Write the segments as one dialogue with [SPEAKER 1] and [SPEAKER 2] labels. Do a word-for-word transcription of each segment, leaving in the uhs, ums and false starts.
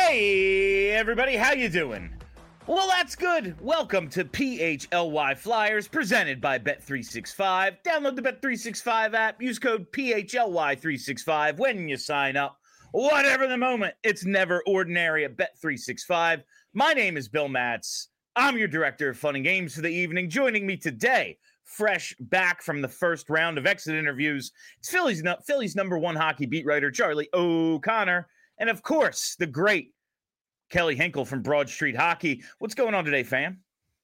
[SPEAKER 1] Hey, everybody, how you doing? Well, that's good. Welcome to P H L Y Flyers, presented by Bet three sixty-five. Download the Bet three sixty-five app. Use code P H L Y three sixty-five when you sign up. Whatever the moment, it's never ordinary at Bet three sixty-five. My name is Bill Matz. I'm your director of fun and games for the evening. Joining me today, fresh back from the first round of exit interviews, it's Philly's, Philly's number one hockey beat writer, Charlie O'Connor. And of course, the great Kelly Hinkle from Broad Street Hockey. What's going on today, fam?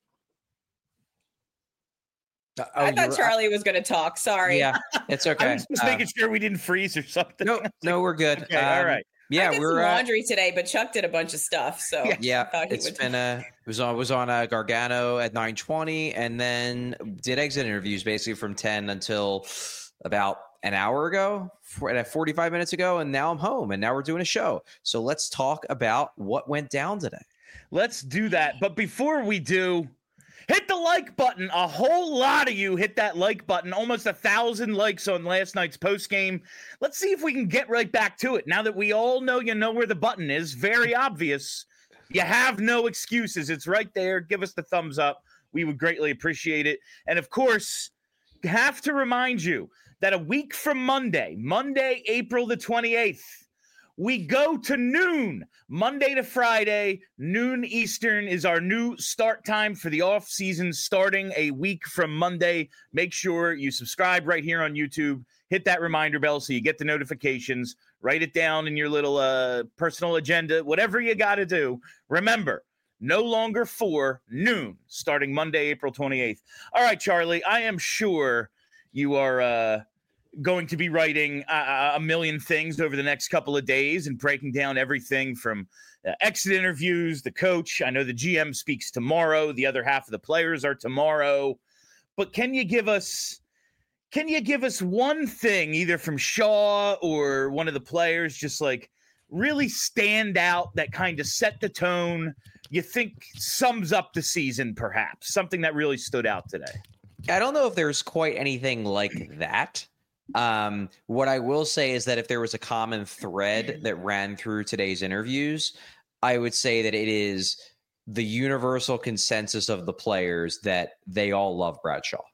[SPEAKER 2] Uh, oh, I thought Charlie was going to talk. Sorry.
[SPEAKER 3] Yeah, it's okay.
[SPEAKER 1] I was just uh, making sure we didn't freeze or something.
[SPEAKER 3] No, no, we're good.
[SPEAKER 1] Okay,
[SPEAKER 3] um,
[SPEAKER 1] all right.
[SPEAKER 3] Yeah,
[SPEAKER 2] I did
[SPEAKER 3] we're
[SPEAKER 2] some laundry
[SPEAKER 3] uh,
[SPEAKER 2] today, but Chuck did a bunch of stuff. So
[SPEAKER 1] yeah,
[SPEAKER 3] yeah
[SPEAKER 2] I
[SPEAKER 3] it's
[SPEAKER 2] would...
[SPEAKER 3] been a it was on was on a Gargano at nine twenty, and then did exit interviews basically from ten until about an hour ago, forty-five minutes ago, and now I'm home, and now we're doing a show. So let's talk about what went down today.
[SPEAKER 1] Let's do that. But before we do, hit the like button. A whole lot of you hit that like button. Almost a thousand likes on last night's post game. Let's see if we can get right back to it. Now that we all know you know where the button is, very obvious. You have no excuses. It's right there. Give us the thumbs up. We would greatly appreciate it. And of course, have to remind you that a week from Monday, Monday, April the twenty-eighth, we go to noon, Monday to Friday, noon Eastern is our new start time for the off season starting a week from Monday. Make sure you subscribe right here on YouTube. Hit that reminder bell so you get the notifications. Write it down in your little uh, personal agenda, whatever you got to do. Remember, no longer for noon, starting Monday, April twenty-eighth. All right, Charlie, I am sure you are uh, going to be writing a, a million things over the next couple of days and breaking down everything from uh, exit interviews, the coach. I know the G M speaks tomorrow. The other half of the players are tomorrow. But can you give us can you give us one thing, either from Shaw or one of the players, just like really stand out that kind of set the tone, you think sums up the season, perhaps? Something that really stood out today.
[SPEAKER 3] I don't know if there's quite anything like that. Um, what I will say is that if there was a common thread that ran through today's interviews, I would say that it is the universal consensus of the players that they all love Bradshaw.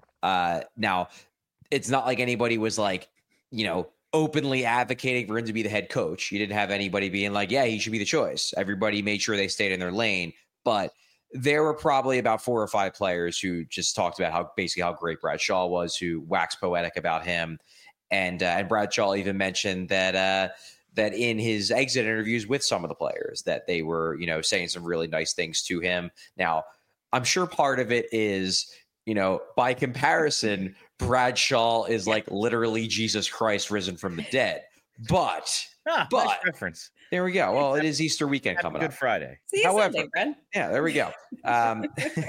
[SPEAKER 3] Uh, now, it's not like anybody was like, you know, openly advocating for him to be the head coach. You didn't have anybody being like, yeah, he should be the choice. Everybody made sure they stayed in their lane. But there were probably about four or five players who just talked about how basically how great Bradshaw was, who waxed poetic about him. And uh, and Bradshaw even mentioned that uh, that in his exit interviews with some of the players that they were, you know, saying some really nice things to him. Now, I'm sure part of it is, you know, by comparison, Bradshaw is like literally Jesus Christ risen from the dead. But,
[SPEAKER 1] ah,
[SPEAKER 3] but
[SPEAKER 1] nice reference.
[SPEAKER 3] There we go. Well, it is Easter weekend
[SPEAKER 1] Happy
[SPEAKER 3] coming
[SPEAKER 1] Good
[SPEAKER 3] up.
[SPEAKER 1] Good Friday.
[SPEAKER 2] See you
[SPEAKER 3] However,
[SPEAKER 2] Sunday, Brent.
[SPEAKER 3] Yeah, there we go. Um,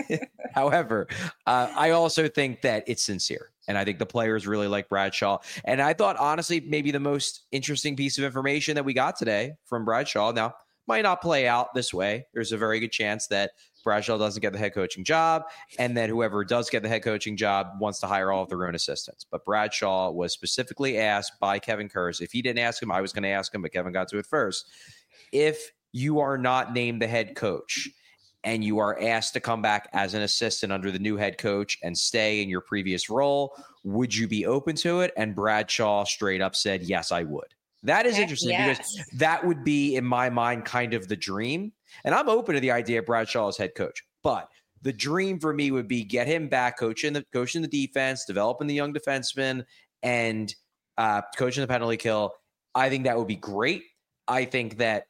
[SPEAKER 3] however, uh, I also think that it's sincere. And I think the players really like Bradshaw. And I thought, honestly, maybe the most interesting piece of information that we got today from Bradshaw, now, might not play out this way. There's a very good chance that Bradshaw doesn't get the head coaching job, and that whoever does get the head coaching job wants to hire all of their own assistants. But Bradshaw was specifically asked by Kevin Kurz. If he didn't ask him, I was going to ask him, but Kevin got to it first. If you are not named the head coach and you are asked to come back as an assistant under the new head coach and stay in your previous role, would you be open to it? And Bradshaw straight up said, yes, I would. That is interesting
[SPEAKER 2] yes.
[SPEAKER 3] because that would be, in my mind, kind of the dream. And I'm open to the idea of Bradshaw as head coach. But the dream for me would be get him back coaching the coaching the defense, developing the young defensemen, and uh, coaching the penalty kill. I think that would be great. I think that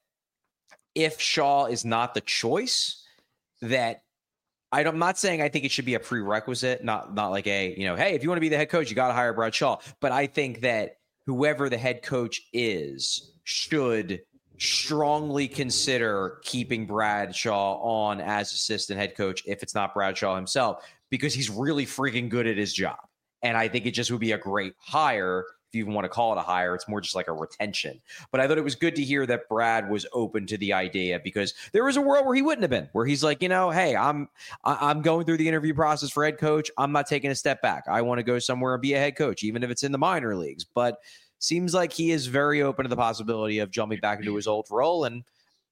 [SPEAKER 3] if Shaw is not the choice, that I'm not saying I think it should be a prerequisite, not not like a, you know, hey, if you want to be the head coach, you got to hire Bradshaw. But I think that whoever the head coach is should strongly consider keeping Bradshaw on as assistant head coach if it's not Bradshaw himself, because he's really freaking good at his job. And I think it just would be a great hire. If you even want to call it a hire, it's more just like a retention. But I thought it was good to hear that Brad was open to the idea, because there was a world where he wouldn't have been, where he's like, you know, hey, I'm I'm going through the interview process for head coach. I'm not taking a step back. I want to go somewhere and be a head coach, even if it's in the minor leagues. But seems like he is very open to the possibility of jumping back into his old role. And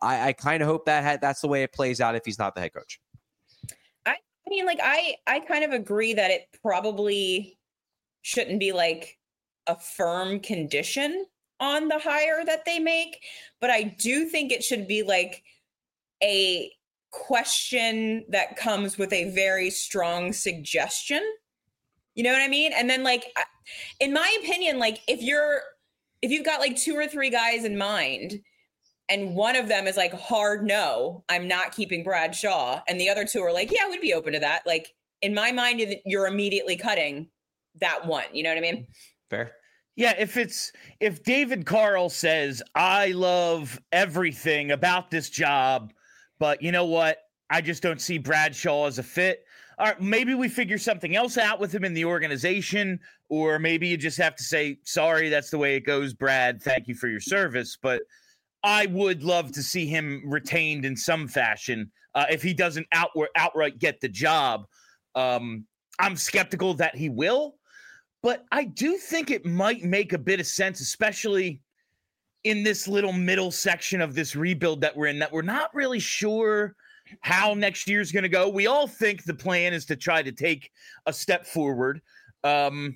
[SPEAKER 3] I, I kind of hope that ha- that's the way it plays out if he's not the head coach.
[SPEAKER 2] I, I mean, like, I, I kind of agree that it probably shouldn't be like a firm condition on the hire that they make, but I do think it should be like a question that comes with a very strong suggestion. You know what I mean? And then, like, in my opinion, like, if you're, if you've got like two or three guys in mind and one of them is like, hard no, I'm not keeping Brad Shaw, and the other two are like, yeah, we'd be open to that. Like, in my mind, you're immediately cutting that one. You know what I mean?
[SPEAKER 3] Fair.
[SPEAKER 1] Yeah, if it's if David Carl says, I love everything about this job, but you know what? I just don't see Brad Shaw as a fit. All right, maybe we figure something else out with him in the organization, or maybe you just have to say, sorry, that's the way it goes, Brad. Thank you for your service. But I would love to see him retained in some fashion uh, if he doesn't outward, outright get the job. Um, I'm skeptical that he will. But I do think it might make a bit of sense, especially in this little middle section of this rebuild that we're in, that we're not really sure how next year's going to go. We all think the plan is to try to take a step forward. Um,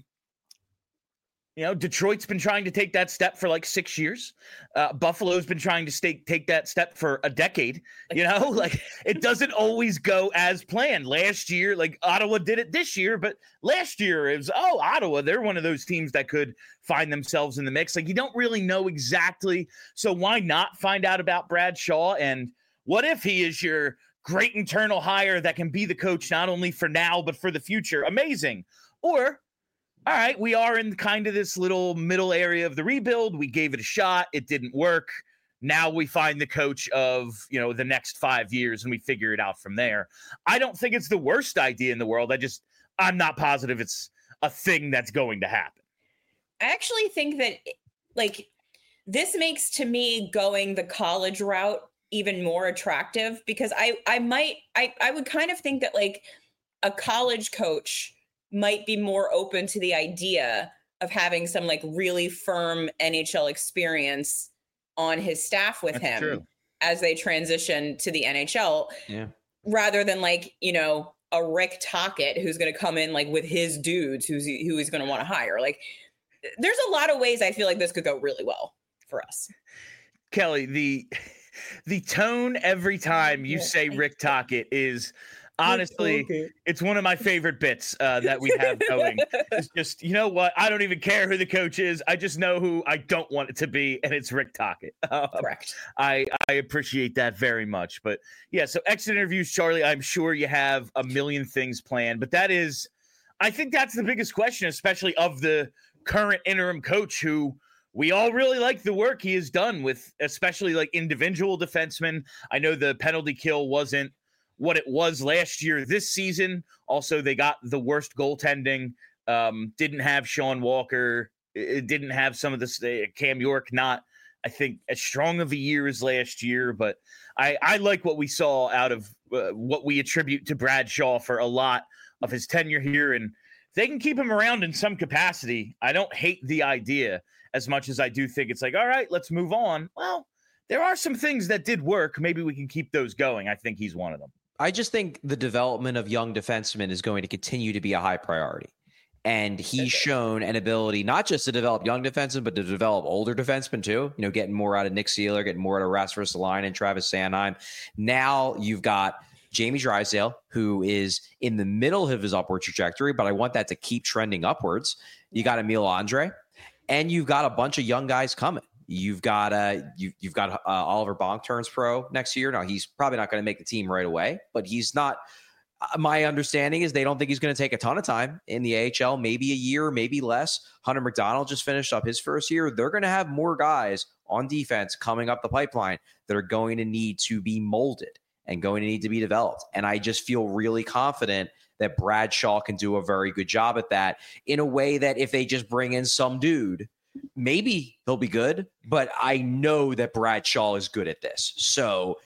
[SPEAKER 1] you know, Detroit's been trying to take that step for like six years. Uh, Buffalo's been trying to stay, take that step for a decade. You know, like it doesn't always go as planned. Last year, like Ottawa did it this year, but last year it was, oh, Ottawa, they're one of those teams that could find themselves in the mix. Like you don't really know exactly. So why not find out about Brad Shaw? And what if he is your great internal hire that can be the coach not only for now, but for the future? Amazing. Or, all right, we are in kind of this little middle area of the rebuild. We gave it a shot. It didn't work. Now we find the coach of, you know, the next five years and we figure it out from there. I don't think it's the worst idea in the world. I just, I'm not positive it's a thing that's going to happen.
[SPEAKER 2] I actually think that, like, this makes to me going the college route even more attractive, because I, I might, I, I would kind of think that like a college coach might be more open to the idea of having some like really firm N H L experience on his staff with
[SPEAKER 1] That's
[SPEAKER 2] him
[SPEAKER 1] true.
[SPEAKER 2] as they transition to the N H L,
[SPEAKER 3] Yeah.
[SPEAKER 2] rather than like, you know, a Rick Tocchet who's going to come in like with his dudes who's who he's going to want to hire. Like, there's a lot of ways I feel like this could go really well for us.
[SPEAKER 1] Kelly, the the tone every time you say Rick Tocchet is honestly, it's one of my favorite bits uh, that we have going. It's just, you know what? I don't even care who the coach is. I just know who I don't want it to be, and it's Rick Tocchet. Um,
[SPEAKER 2] Correct.
[SPEAKER 1] I, I appreciate that very much. But yeah, so exit interviews, Charlie, I'm sure you have a million things planned, but that is, I think that's the biggest question, especially of the current interim coach, who we all really like the work he has done with, especially like individual defensemen. I know the penalty kill wasn't what it was last year. This season, also, they got the worst goaltending. Um, didn't have Sean Walker. It didn't have some of this. Uh, Cam York, not, I think, as strong of a year as last year. But I, I like what we saw out of uh, what we attribute to Brad Shaw for a lot of his tenure here. And they can keep him around in some capacity. I don't hate the idea as much as I do think it's like, all right, let's move on. Well, there are some things that did work. Maybe we can keep those going. I think he's one of them.
[SPEAKER 3] I just think the development of young defensemen is going to continue to be a high priority. And he's shown an ability not just to develop young defensemen, but to develop older defensemen too. You know, getting more out of Nick Seeler, getting more out of Rasmus Ristolainen and Travis Sanheim. Now you've got Jamie Drysdale, who is in the middle of his upward trajectory, but I want that to keep trending upwards. You got Emil Andre, and you've got a bunch of young guys coming. You've got uh, you, you've got uh, Oliver Bonk turns pro next year. Now, he's probably not going to make the team right away, but he's not. Uh, my understanding is they don't think he's going to take a ton of time in the A H L, maybe a year, maybe less. Hunter McDonald just finished up his first year. They're going to have more guys on defense coming up the pipeline that are going to need to be molded and going to need to be developed. And I just feel really confident that Brad Shaw can do a very good job at that, in a way that if they just bring in some dude, maybe he'll be good, but I know that Brad Shaw is good at this. So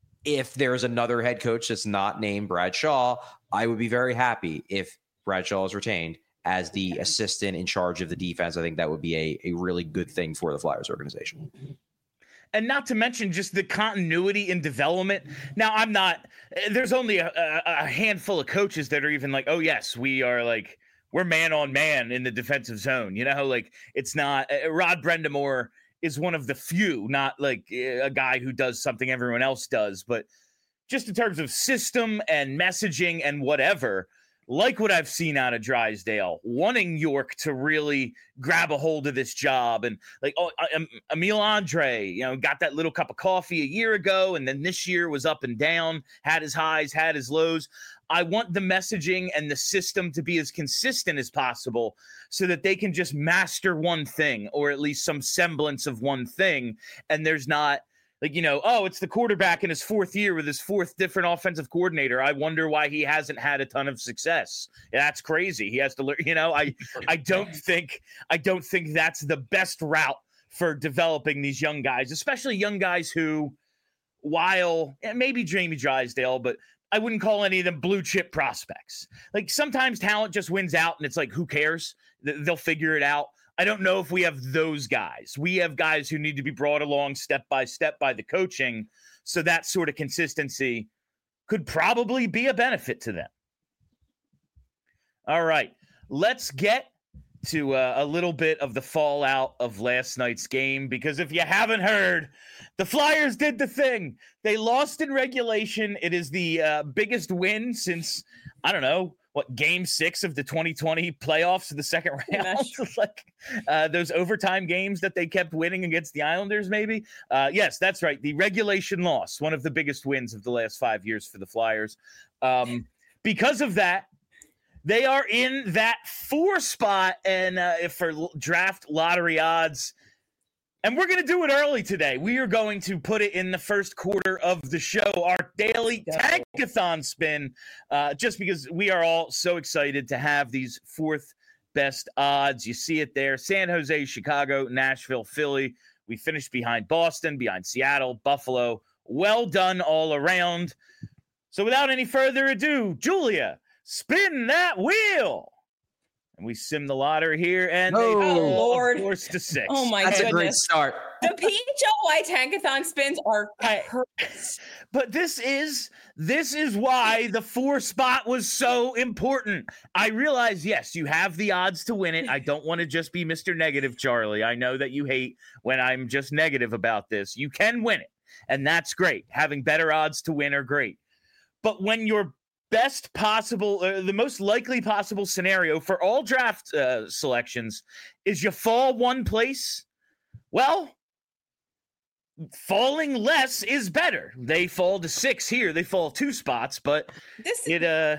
[SPEAKER 3] if there's another head coach that's not named Brad Shaw, I would be very happy if Brad Shaw is retained as the assistant in charge of the defense. I think that would be a, a really good thing for the Flyers organization.
[SPEAKER 1] And not to mention just the continuity in development. Now, I'm not, there's only a, a, a handful of coaches that are even like, oh, yes, we are like, we're man on man in the defensive zone. You know, like it's not, uh, Rod Brendamore is one of the few, not like a guy who does something everyone else does, but just in terms of system and messaging and whatever, like what I've seen out of Drysdale, wanting York to really grab a hold of this job. And like, oh, um, Emile Andre, you know, got that little cup of coffee a year ago. And then this year was up and down, had his highs, had his lows. I want the messaging and the system to be as consistent as possible so that they can just master one thing, or at least some semblance of one thing. And there's not, like, you know, oh, it's the quarterback in his fourth year with his fourth different offensive coordinator. I wonder why he hasn't had a ton of success. That's crazy. He has to learn, you know, I, I don't think, I don't think that's the best route for developing these young guys, especially young guys who, while maybe Jamie Drysdale, but I wouldn't call any of them blue chip prospects. Like sometimes talent just wins out and it's like, who cares? They'll figure it out. I don't know if we have those guys. We have guys who need to be brought along step by step by the coaching. So that sort of consistency could probably be a benefit to them. All right, let's get to uh, a little bit of the fallout of last night's game, because if you haven't heard, the Flyers did the thing. They lost in regulation. It is the uh, biggest win since, I don't know, what, game six of the twenty twenty playoffs of the second round, like uh, those overtime games that they kept winning against the Islanders, maybe. Uh, yes, that's right. The regulation loss, one of the biggest wins of the last five years for the Flyers. Um, because of that, they are in that four spot, and uh, if for draft lottery odds, and we're going to do it early today. We are going to put it in the first quarter of the show, our daily tankathon spin, uh, just because we are all so excited to have these fourth best odds. You see it there. San Jose, Chicago, Nashville, Philly. We finished behind Boston, behind Seattle, Buffalo. Well done all around. So without any further ado, Julia, spin that wheel. And we sim the lottery here, and
[SPEAKER 3] oh,
[SPEAKER 1] they
[SPEAKER 2] oh Lord,
[SPEAKER 1] force to six.
[SPEAKER 2] Oh my
[SPEAKER 3] That's
[SPEAKER 2] goodness.
[SPEAKER 3] a great start.
[SPEAKER 2] The P H L Y Tankathon spins are perfect.
[SPEAKER 1] But this is this is why the four spot was so important. I realize, yes, you have the odds to win it. I don't want to just be Mister Negative, Charlie. I know that you hate when I'm just negative about this. You can win it, and that's great. Having better odds to win are great. But when you're best possible, uh, the most likely possible scenario for all draft uh, selections is you fall one place. Well, falling less is better. They fall to six here. They fall two spots, but
[SPEAKER 2] this
[SPEAKER 1] it uh,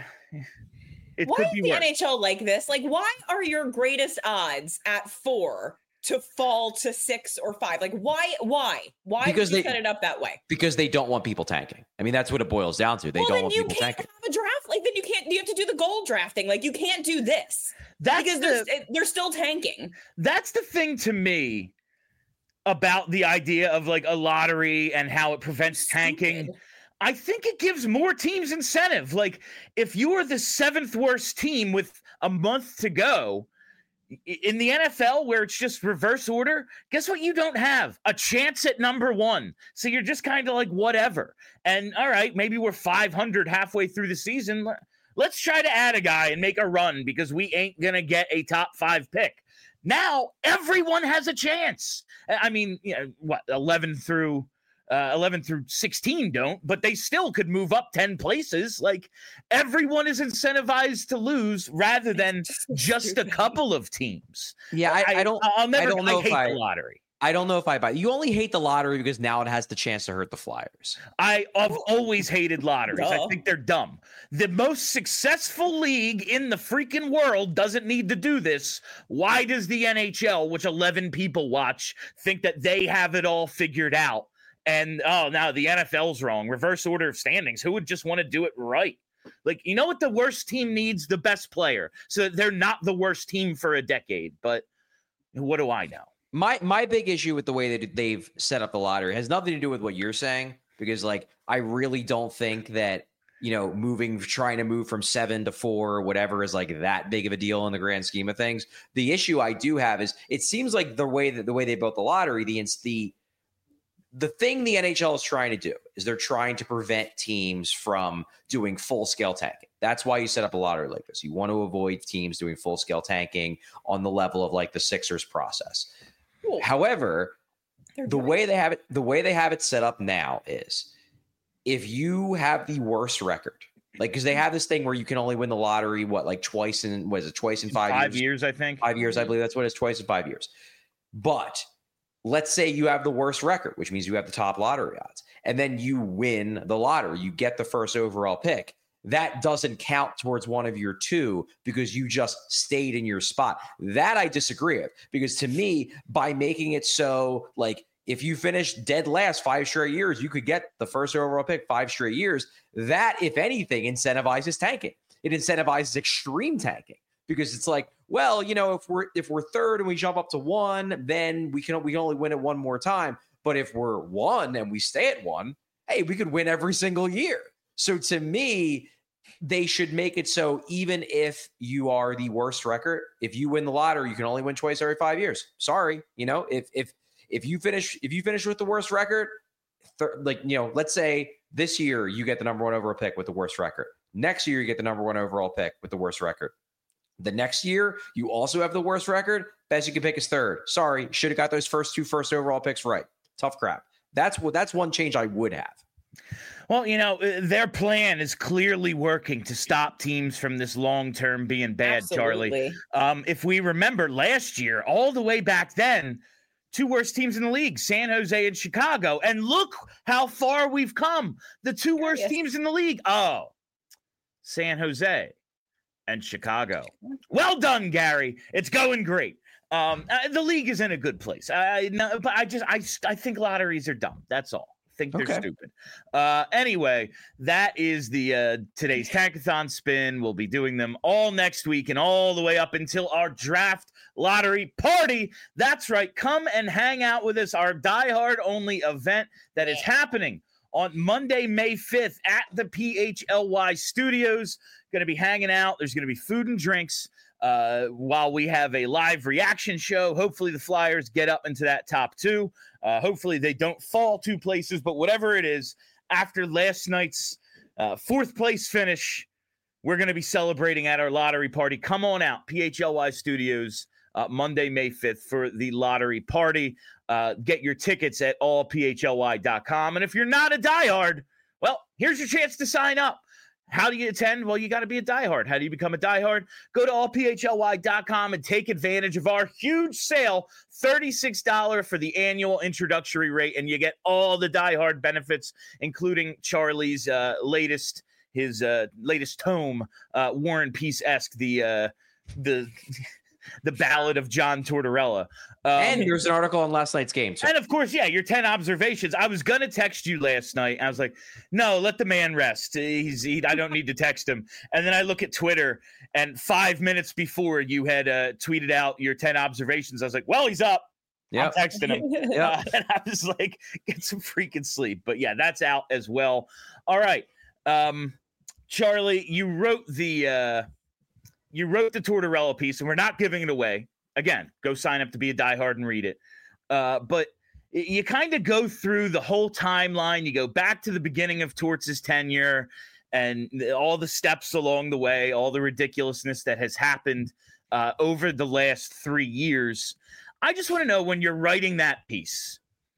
[SPEAKER 1] it
[SPEAKER 2] why
[SPEAKER 1] could
[SPEAKER 2] is
[SPEAKER 1] be
[SPEAKER 2] the
[SPEAKER 1] worse.
[SPEAKER 2] N H L like this? Like, why are your greatest odds at four to fall to six or five? Like, why? Why? Why
[SPEAKER 3] Because
[SPEAKER 2] did you
[SPEAKER 3] they-
[SPEAKER 2] set it up that way?
[SPEAKER 3] Because they don't want people tanking. I mean, that's what it boils down to. They
[SPEAKER 2] well,
[SPEAKER 3] don't
[SPEAKER 2] then
[SPEAKER 3] want
[SPEAKER 2] you
[SPEAKER 3] people
[SPEAKER 2] can't
[SPEAKER 3] tanking.
[SPEAKER 2] have a draft. Like, then you can't. You have to do the goal drafting. Like, you can't do this
[SPEAKER 1] That's
[SPEAKER 2] because
[SPEAKER 1] the,
[SPEAKER 2] they're they're still tanking.
[SPEAKER 1] that's the thing to me about the idea of like a lottery and how it prevents tanking.
[SPEAKER 2] Stupid.
[SPEAKER 1] I think it gives more teams incentive. Like if you are the seventh worst team with a month to go i- in the N F L where it's just reverse order, guess what you don't have? A chance at number one. So you're just kind of like whatever. And all right, maybe we're five hundred halfway through the season. Let's try to add a guy and make a run because we ain't going to get a top five pick. Now everyone has a chance. I mean, you know, what, eleven through Uh, eleven through sixteen don't, but they still could move up ten places. Like everyone is incentivized to lose rather than just a couple of teams.
[SPEAKER 3] Yeah, I, I don't.
[SPEAKER 1] I'll never.
[SPEAKER 3] I don't know
[SPEAKER 1] I hate
[SPEAKER 3] if I.
[SPEAKER 1] the lottery.
[SPEAKER 3] I don't know if I buy. You only hate the lottery because now it has the chance to hurt the Flyers.
[SPEAKER 1] I, I've always hated lotteries. I
[SPEAKER 2] Duh.
[SPEAKER 1] think they're dumb. The most successful league in the freaking world doesn't need to do this. Why does the N H L, which eleven people watch, think that they have it all figured out? And, oh, now the N F L's wrong. Reverse order of standings. Who would just want to do it right? Like, you know what the worst team needs? The best player. So they're not the worst team for a decade. But what do I know?
[SPEAKER 3] My my big issue with the way that they've set up the lottery has nothing to do with what you're saying, because like I really don't think that, you know, moving trying to move from seven to four or whatever is like that big of a deal in the grand scheme of things. The issue I do have is it seems like the way that the way they built the lottery, the the the thing the N H L is trying to do is they're trying to prevent teams from doing full-scale tanking. That's why you set up a lottery like this. You want to avoid teams doing full-scale tanking on the level of like the Sixers process.
[SPEAKER 2] Cool.
[SPEAKER 3] However,
[SPEAKER 2] They're
[SPEAKER 3] the
[SPEAKER 2] doing
[SPEAKER 3] way
[SPEAKER 2] it.
[SPEAKER 3] they have it, the way they have it set up now is if you have the worst record, like because they have this thing where you can only win the lottery, what, like twice in what is it, twice in five,
[SPEAKER 1] Five
[SPEAKER 3] years?
[SPEAKER 1] years, I think.
[SPEAKER 3] Five years, I believe that's what it is, twice in five years. But let's say you have the worst record, which means you have the top lottery odds, and then you win the lottery, you get the first overall pick. That doesn't count towards one of your two because you just stayed in your spot. That I disagree with, because to me, by making it so like if you finish dead last five straight years, you could get the first overall pick five straight years. That, if anything, incentivizes tanking. It incentivizes extreme tanking because it's like, well, you know, if we're if we're third and we jump up to one, then we can we can only win it one more time. But if we're one and we stay at one, hey, we could win every single year. So to me, they should make it so even if you are the worst record, if you win the lottery, you can only win twice every five years. Sorry, you know, if if if you finish if you finish with the worst record, th- like you know, let's say this year you get the number one overall pick with the worst record. Next year you get the number one overall pick with the worst record. The next year you also have the worst record. Best you can pick is third. Sorry, should have got those first two first overall picks right. Tough crap. That's what that's one change I would have.
[SPEAKER 1] Well, you know, their plan is clearly working to stop teams from this long-term being bad, Charlie.
[SPEAKER 2] Absolutely.
[SPEAKER 1] Um, if we remember last year, all the way back then, two worst teams in the league, San Jose and Chicago. And look how far we've come. The two worst
[SPEAKER 2] Yes.
[SPEAKER 1] teams in the league. Oh, San Jose and Chicago. Well done, Gary. It's going great. Um, uh, the league is in a good place. I, no, but I just, I, I think lotteries are dumb. That's all. I think they're
[SPEAKER 3] Okay.
[SPEAKER 1] stupid. Uh, anyway, that is the uh, today's Tankathon spin. We'll be doing them all next week and all the way up until our draft lottery party. That's right. Come and hang out with us. Our diehard only event that is happening on Monday, May fifth at the P H L Y studios. Going to be hanging out. There's going to be food and drinks uh, while we have a live reaction show. Hopefully the Flyers get up into that top two. Uh, hopefully they don't fall two places, but whatever it is, after last night's uh, fourth place finish, we're going to be celebrating at our lottery party. Come on out, P H L Y Studios, uh, Monday, May fifth for the lottery party. Uh, get your tickets at all p h l y dot com. And if you're not a diehard, well, here's your chance to sign up. How do you attend? Well, you got to be a diehard. How do you become a diehard? Go to all p h l y dot com and take advantage of our huge sale, thirty-six dollars for the annual introductory rate, and you get all the diehard benefits, including Charlie's uh, latest his uh, latest tome, uh, War and Peace-esque, the uh, the the Ballad of John Tortorella. Um,
[SPEAKER 3] And there's an article on last night's game. So.
[SPEAKER 1] And of course, yeah, your ten observations. I was gonna text you last night. I was like, no, let the man rest. He's he, I don't need to text him. And then I look at Twitter, and five minutes before you had uh, tweeted out your ten observations, I was like, well, he's up.
[SPEAKER 3] Yep.
[SPEAKER 1] I'm texting him.
[SPEAKER 3] Yep.
[SPEAKER 1] Uh, and I was like, get some freaking sleep. But yeah, that's out as well. All right. Um, Charlie, you wrote the uh, you wrote the Tortorella piece, and we're not giving it away. Again, go sign up to be a diehard and read it. Uh, but you kind of go through the whole timeline. You go back to the beginning of Torts' tenure and all the steps along the way, all the ridiculousness that has happened uh, over the last three years. I just want to know, when you're writing that piece,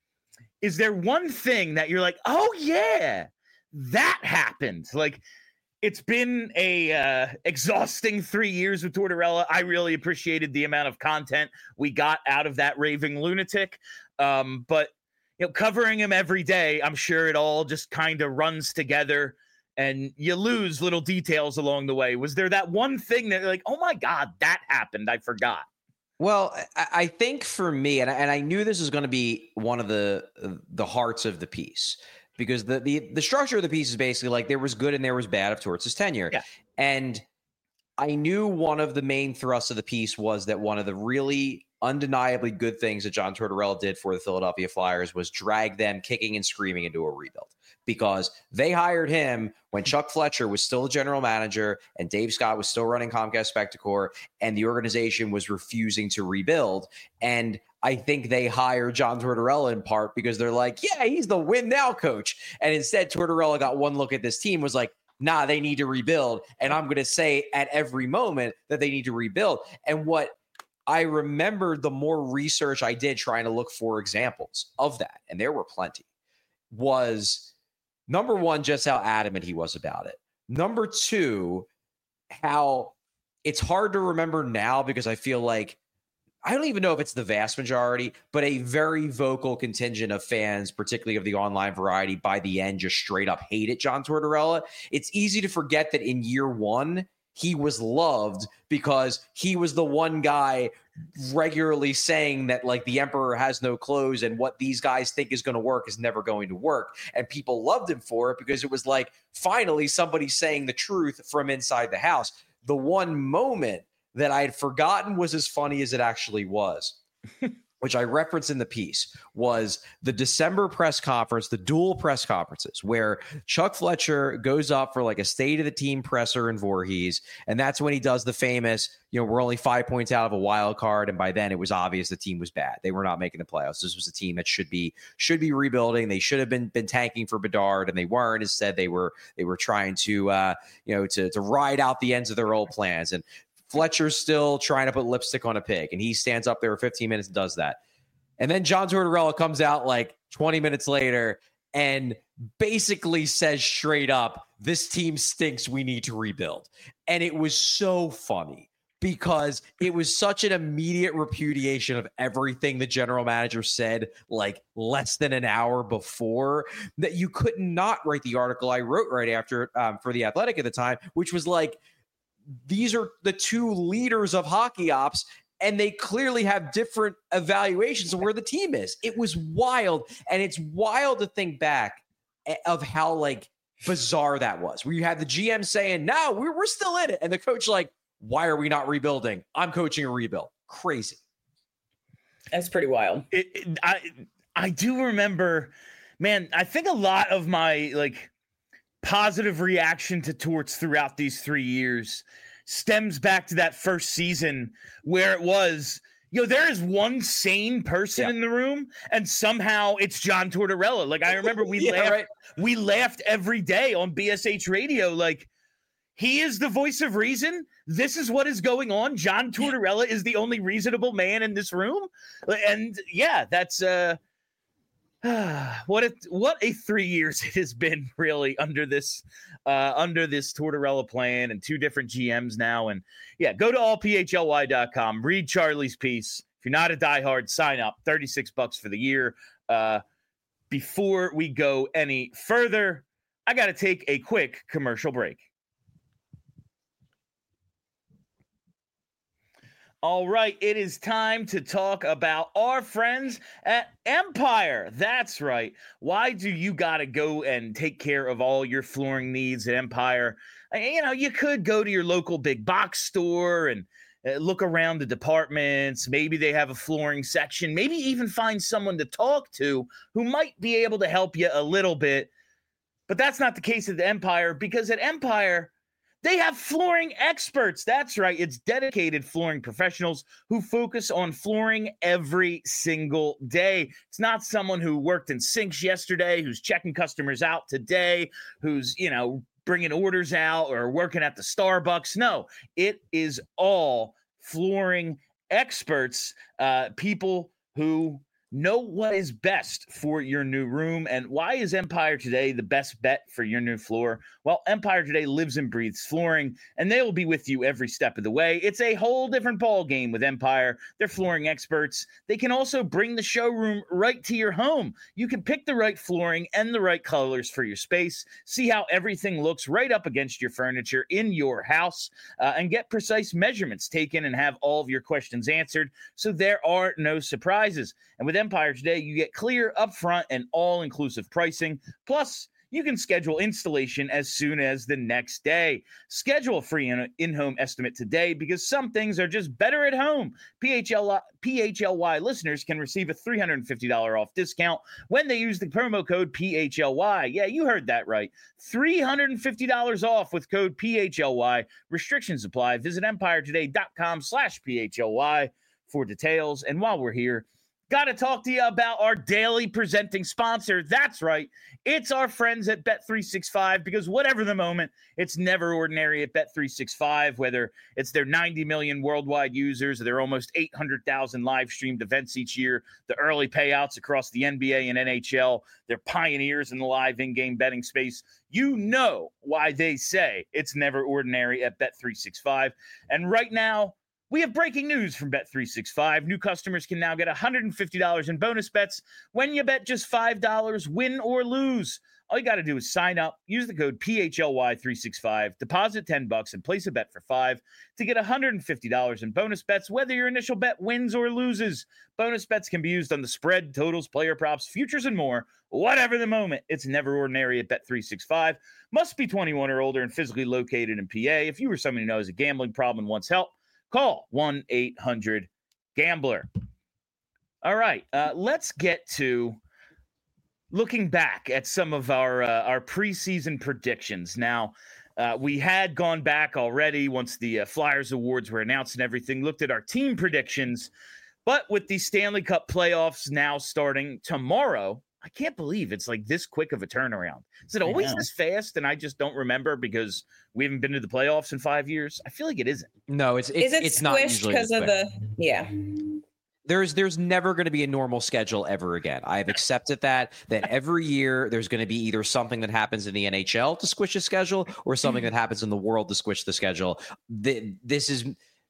[SPEAKER 1] is there one thing that you're like, oh, yeah, that happened? Like, it's been a uh, exhausting three years with Tortorella. I really appreciated the amount of content we got out of that raving lunatic. Um, but you know, covering him every day, I'm sure it all just kind of runs together, and you lose little details along the way. Was there that one thing that you're like, oh my God, that happened, I forgot?
[SPEAKER 3] Well, I, I think for me, and I, and I knew this was going to be one of the the hearts of the piece. Because the, the the structure of the piece is basically like there was good and there was bad of Torts' tenure.
[SPEAKER 1] Yeah.
[SPEAKER 3] And I knew one of the main thrusts of the piece was that one of the really undeniably good things that John Tortorella did for the Philadelphia Flyers was drag them kicking and screaming into a rebuild, because they hired him when Chuck Fletcher was still the general manager and Dave Scott was still running Comcast Spectacor, and the organization was refusing to rebuild. And I think they hired John Tortorella in part because they're like, yeah, he's the win now coach. And instead, Tortorella got one look at this team, was like, nah, they need to rebuild. And I'm going to say at every moment that they need to rebuild. And what I remember, the more research I did trying to look for examples of that, and there were plenty, was number one, just how adamant he was about it. Number two, how it's hard to remember now because I feel like, I don't even know if it's the vast majority, but a very vocal contingent of fans, particularly of the online variety, by the end just straight up hated John Tortorella. It's easy to forget that in year one, he was loved because he was the one guy regularly saying that, like, the emperor has no clothes and what these guys think is going to work is never going to work. And people loved him for it because it was like, finally, somebody saying the truth from inside the house. The one moment that I had forgotten was as funny as it actually was, which I referenced in the piece, was the December press conference, the dual press conferences, where Chuck Fletcher goes up for like a state of the team presser in Voorhees. And that's when he does the famous, you know, we're only five points out of a wild card. And by then it was obvious the team was bad. They were not making the playoffs. This was a team that should be, should be rebuilding. They should have been, been tanking for Bedard, and they weren't. Instead, they were, they were trying to, uh, you know, to, to ride out the ends of their old plans. And Fletcher's still trying to put lipstick on a pig, and he stands up there for fifteen minutes and does that. And then John Tortorella comes out like twenty minutes later and basically says straight up, this team stinks, we need to rebuild. And it was so funny because it was such an immediate repudiation of everything the general manager said like less than an hour before, that you could not write the article I wrote right after um, for The Athletic at the time, which was like, these are the two leaders of hockey ops, and they clearly have different evaluations of where the team is. It was wild. And it's wild to think back of how like bizarre that was, where you had the G M saying, no, we're, we're still in it. And the coach like, why are we not rebuilding? I'm coaching a rebuild. Crazy.
[SPEAKER 2] That's pretty wild.
[SPEAKER 1] It, it, I, I do remember, man, I think a lot of my like positive reaction to Torts throughout these three years stems back to that first season where it was, you know, there is one sane person yeah. in the room, and somehow it's John Tortorella. Like, I remember we yeah, laughed, right. we laughed every day on B S H radio. Like, he is the voice of reason. This is what is going on. John Tortorella is the only reasonable man in this room. And yeah, that's uh what a what a three years it has been, really, under this uh, under this Tortorella plan, and two different G Ms now. And yeah, go to all p h l y dot com, read Charlie's piece. If you're not a diehard, sign up. thirty-six bucks for the year. Uh, before we go any further, I got to take a quick commercial break. All right, it is time to talk about our friends at Empire. That's right. Why do you got to go and take care of all your flooring needs at Empire? You know, you could go to your local big box store and uh, look around the departments. Maybe they have a flooring section. Maybe even find someone to talk to who might be able to help you a little bit. But that's not the case at the Empire, because at Empire, they have flooring experts. That's right. It's dedicated flooring professionals who focus on flooring every single day. It's not someone who worked in sinks yesterday, who's checking customers out today, who's, you know, bringing orders out or working at the Starbucks. No, it is all flooring experts, uh, people who know what is best for your new room. And why is Empire Today the best bet for your new floor? Well, Empire Today lives and breathes flooring, and they will be with you every step of the way. It's a whole different ball game with Empire. They're flooring experts. They can also bring the showroom right to your home. You can pick the right flooring and the right colors for your space, see how everything looks right up against your furniture in your house, uh, and get precise measurements taken and have all of your questions answered, so there are no surprises. And with Empire Today, you get clear, upfront, and all-inclusive pricing. Plus, you can schedule installation as soon as the next day. Schedule a free in-home estimate today because some things are just better at home. P H L, P H L Y listeners can receive a three hundred fifty dollars off discount when they use the promo code P H L Y. Yeah, you heard that right. three hundred fifty dollars off with code P H L Y. Restrictions apply. Visit empiretoday.com slash PHLY for details. And while we're here, got to talk to you about our daily presenting sponsor. That's right. It's our friends at Bet three sixty-five, because whatever the moment, it's never ordinary at Bet three sixty-five, whether it's their ninety million worldwide users, or their almost eight hundred thousand live streamed events each year, the early payouts across the N B A and N H L, they're pioneers in the live in-game betting space. You know why they say it's never ordinary at Bet three sixty-five. And right now, we have breaking news from Bet three sixty-five. New customers can now get one hundred fifty dollars in bonus bets when you bet just five dollars, win or lose. All you got to do is sign up, use the code P H L Y three sixty-five, deposit ten bucks, and place a bet for five to get one hundred fifty dollars in bonus bets, whether your initial bet wins or loses. Bonus bets can be used on the spread, totals, player props, futures, and more. Whatever the moment, it's never ordinary at Bet three sixty-five. Must be twenty-one or older and physically located in P A. If you or someone who knows a gambling problem and wants help, call one eight hundred gambler. All right, uh, let's get to looking back at some of our uh, our preseason predictions. Now, uh, we had gone back already once the uh, Flyers Awards were announced and everything, looked at our team predictions. But with the Stanley Cup playoffs now starting tomorrow, I can't believe it's like this quick of a turnaround. Is it always this fast? And I just don't remember because we haven't been to the playoffs in five years. I feel like it isn't.
[SPEAKER 3] No, it's it's,
[SPEAKER 2] Is it
[SPEAKER 3] it's not usually
[SPEAKER 2] because of the yeah.
[SPEAKER 3] There's there's never going to be a normal schedule ever again. I've accepted that that every year there's going to be either something that happens in the N H L to squish the schedule or something that happens in the world to squish the schedule. The, this is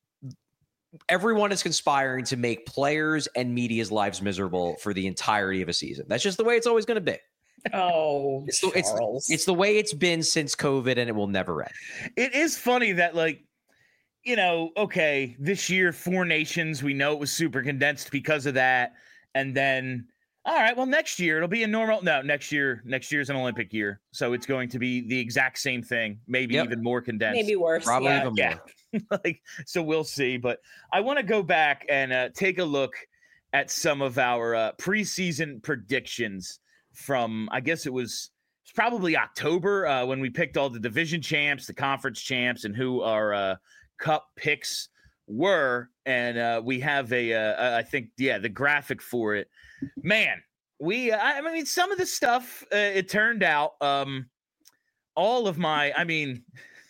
[SPEAKER 3] everyone is conspiring to make players and media's lives miserable for the entirety of a season. That's just the way it's always going to be.
[SPEAKER 2] Oh,
[SPEAKER 3] it's the, it's, it's the way it's been since COVID, and it will never end.
[SPEAKER 1] It is funny that, like, you know, okay, this year, four nations, we know it was super condensed because of that. And then, all right, well, next year it'll be a normal. No, next year, next year is an Olympic year. So it's going to be the exact same thing, maybe yep. even more condensed.
[SPEAKER 2] Maybe worse.
[SPEAKER 3] Probably
[SPEAKER 2] yeah.
[SPEAKER 3] even
[SPEAKER 1] yeah.
[SPEAKER 3] more.
[SPEAKER 1] like, so we'll see. But I want to go back and uh, take a look at some of our uh, preseason predictions from, I guess it was, it was probably October uh, when we picked all the division champs, the conference champs, and who our uh, cup picks were. And uh, we have a, uh, I think, yeah, the graphic for it. Man, we, uh, I mean, some of the stuff, uh, it turned out, um, all of my, I mean,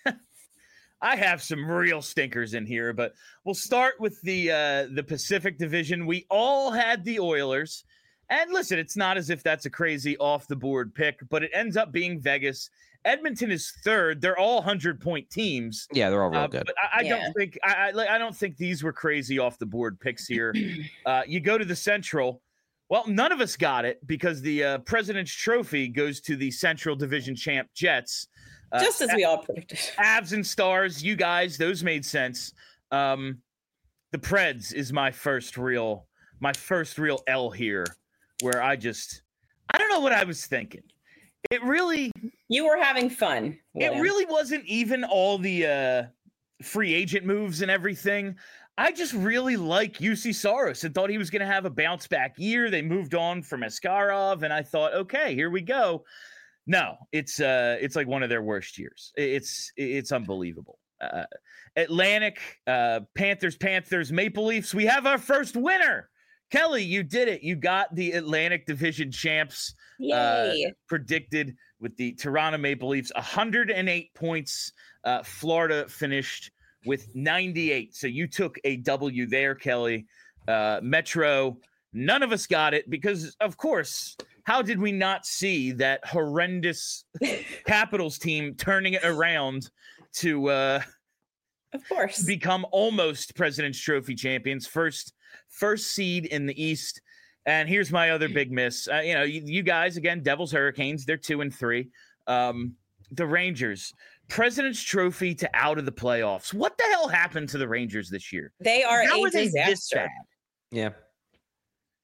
[SPEAKER 1] I have some real stinkers in here, but we'll start with the uh, the Pacific Division. We all had the Oilers. And listen, it's not as if that's a crazy off-the-board pick, but it ends up being Vegas. Edmonton is third. They're all hundred-point teams.
[SPEAKER 3] Yeah, they're all real
[SPEAKER 1] uh,
[SPEAKER 3] good.
[SPEAKER 1] But I, I
[SPEAKER 2] yeah.
[SPEAKER 1] don't think I, I, I don't think these were crazy off-the-board picks here. uh, you go to the Central. Well, none of us got it because the uh, President's Trophy goes to the Central Division champ Jets. Uh,
[SPEAKER 2] Just as we all predicted.
[SPEAKER 1] Avs and Stars, you guys, those made sense. Um, the Preds is my first real, my first real L here, where I just, I don't know what I was thinking. It really,
[SPEAKER 2] You were having fun. William.
[SPEAKER 1] it really wasn't even all the uh, free agent moves and everything. I just really like U C Saros and thought he was going to have a bounce back year. They moved on from Askarov, and I thought, okay, here we go. No, it's uh, it's like one of their worst years. It's it's unbelievable. Uh, Atlantic, uh, Panthers, Panthers, Maple Leafs. We have our first winner. Kelly, you did it. You got the Atlantic Division champs uh,
[SPEAKER 2] Yay.
[SPEAKER 1] predicted with the Toronto Maple Leafs. one hundred eight points. Uh, Florida finished with ninety-eight. So you took a W there, Kelly. Uh, Metro, none of us got it because, of course, how did we not see that horrendous Capitals team turning it around to uh,
[SPEAKER 2] Of course.
[SPEAKER 1] become almost President's Trophy champions, first first seed in the East? And here's my other big miss. Uh, you know, you, you guys, again, Devils, Hurricanes, they're two and three. Um, the Rangers, President's Trophy to out of the playoffs. What the hell happened to the Rangers this year?
[SPEAKER 2] They are
[SPEAKER 1] How
[SPEAKER 2] a
[SPEAKER 1] are they this
[SPEAKER 2] disaster.
[SPEAKER 1] bad?
[SPEAKER 3] Yeah.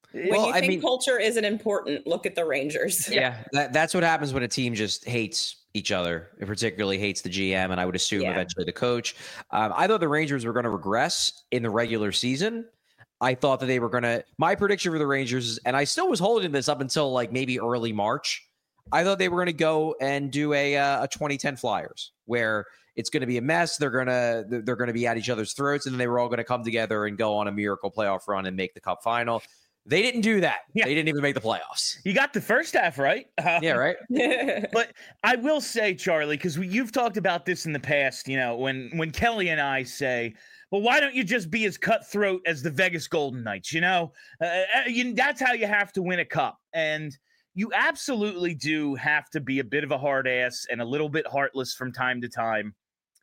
[SPEAKER 2] When
[SPEAKER 3] Well,
[SPEAKER 2] you
[SPEAKER 3] I
[SPEAKER 2] think
[SPEAKER 3] mean-
[SPEAKER 2] culture isn't important, look at the Rangers.
[SPEAKER 3] Yeah, that, that's what happens when a team just hates each other. It particularly hates the G M, and I would assume
[SPEAKER 2] Yeah.
[SPEAKER 3] eventually the coach. Um, I thought the Rangers were going to regress in the regular season. I thought that they were going to. My prediction for the Rangers, is, and I still was holding this up until like maybe early March. I thought they were going to go and do a uh, a twenty ten Flyers, where it's going to be a mess. They're gonna they're going to be at each other's throats, and then they were all going to come together and go on a miracle playoff run and make the Cup final. They didn't do that.
[SPEAKER 1] Yeah.
[SPEAKER 3] They didn't even make the playoffs.
[SPEAKER 1] You got the first half right. Uh,
[SPEAKER 3] Yeah, right.
[SPEAKER 1] But I will say, Charlie, because you've talked about this in the past, you know, when when Kelly and I say, well, why don't you just be as cutthroat as the Vegas Golden Knights? You know, uh, you, that's how you have to win a cup. And you absolutely do have to be a bit of a hard ass and a little bit heartless from time to time.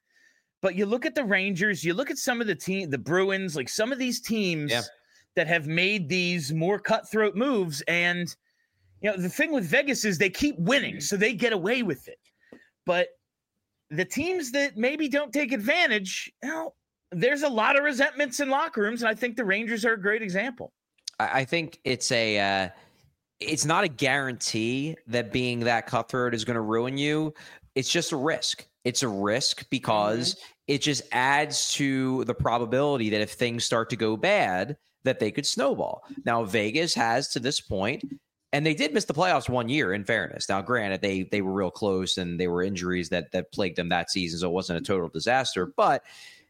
[SPEAKER 1] But you look at the Rangers, you look at some of the team, the Bruins, like some of these teams
[SPEAKER 3] Yeah.
[SPEAKER 1] that have made these more cutthroat moves. And, you know, the thing with Vegas is they keep winning, so they get away with it. But the teams that maybe don't take advantage, you know, there's a lot of resentments in locker rooms, and I think the Rangers are a great example.
[SPEAKER 3] I, I think it's a uh, it's not a guarantee that being that cutthroat is going to ruin you. It's just a risk. It's a risk because mm-hmm. it just adds to the probability that if things start to go bad, that they could snowball. Now, Vegas has to this point, and they did miss the playoffs one year, in fairness. Now, granted, they they were real close, and they were injuries that that plagued them that season, so it wasn't a total disaster. But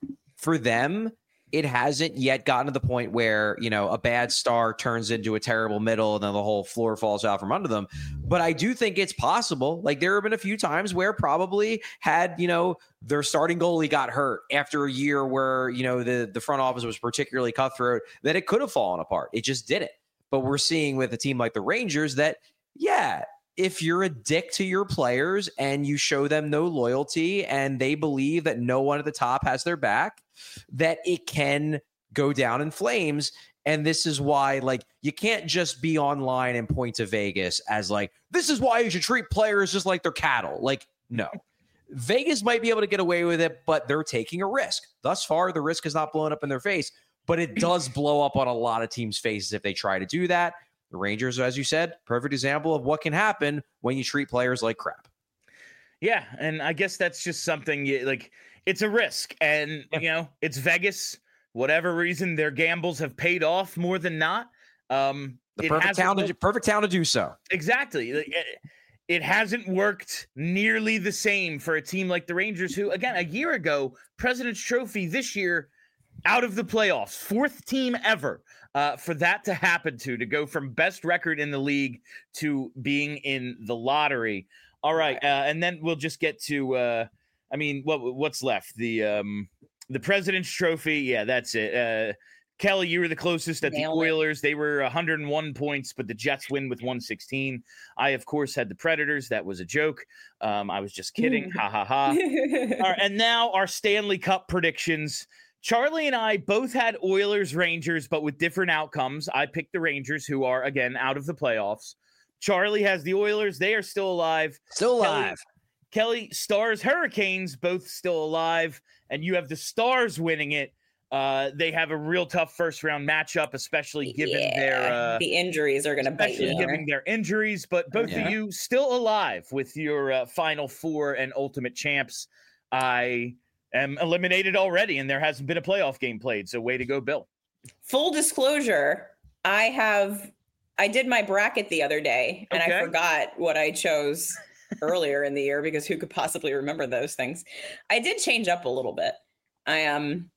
[SPEAKER 3] for them, it hasn't yet gotten to the point where, you know, a bad start turns into a terrible middle and then the whole floor falls out from under them. But I do think it's possible. Like, there have been a few times where probably had, you know, their starting goalie got hurt after a year where, you know, the, the front office was particularly cutthroat, that it could have fallen apart. It just didn't. But we're seeing with a team like the Rangers that, yeah, if you're a dick to your players and you show them no loyalty and they believe that no one at the top has their back, that it can go down in flames. And this is why, like, you can't just be online and point to Vegas as like, this is why you should treat players just like they're cattle. Like, no. Vegas might be able to get away with it, but they're taking a risk. Thus far, the risk has not blown up in their face, but it does blow up on a lot of teams' faces if they try to do that. The Rangers, as you said, perfect example of what can happen when you treat players like crap.
[SPEAKER 1] Yeah, and I guess that's just something you, like, it's a risk. And, yeah. you know, it's Vegas. Whatever reason, their gambles have paid off more than not. Um,
[SPEAKER 3] the perfect town, to, perfect town to do so.
[SPEAKER 1] Exactly. It, it hasn't worked nearly the same for a team like the Rangers, who, again, a year ago, President's Trophy, this year, out of the playoffs, fourth team ever. Uh, for that to happen to, to go from best record in the league to being in the lottery. All right. Uh, and then we'll just get to, uh, I mean, what what's left? The um, the President's Trophy. Yeah, that's it. Uh, Kelly, you were the closest at Nailed the Oilers. It. They were one hundred one points, but the Jets win with one sixteen. I, of course, had the Predators. That was a joke. Um, I was just kidding. ha, ha, ha. All right, and now our Stanley Cup predictions. Charlie and I both had Oilers, Rangers, but with different outcomes. I picked the Rangers, who are, again, out of the playoffs. Charlie has the Oilers. They are still alive.
[SPEAKER 3] Still alive.
[SPEAKER 1] Kelly, Kelly Stars, Hurricanes, both still alive. And you have the Stars winning it. Uh, they have a real tough first-round matchup, especially given
[SPEAKER 2] yeah,
[SPEAKER 1] their uh,
[SPEAKER 2] the injuries are going to bite you.
[SPEAKER 1] Especially given their injuries. But both yeah. of you still alive with your uh, Final Four and Ultimate Champs. I... am eliminated already, and there hasn't been a playoff game played. So way to go, Bill.
[SPEAKER 2] Full disclosure, I have I did my bracket the other day, and okay. I forgot what I chose earlier in the year because who could possibly remember those things? I did change up a little bit. I um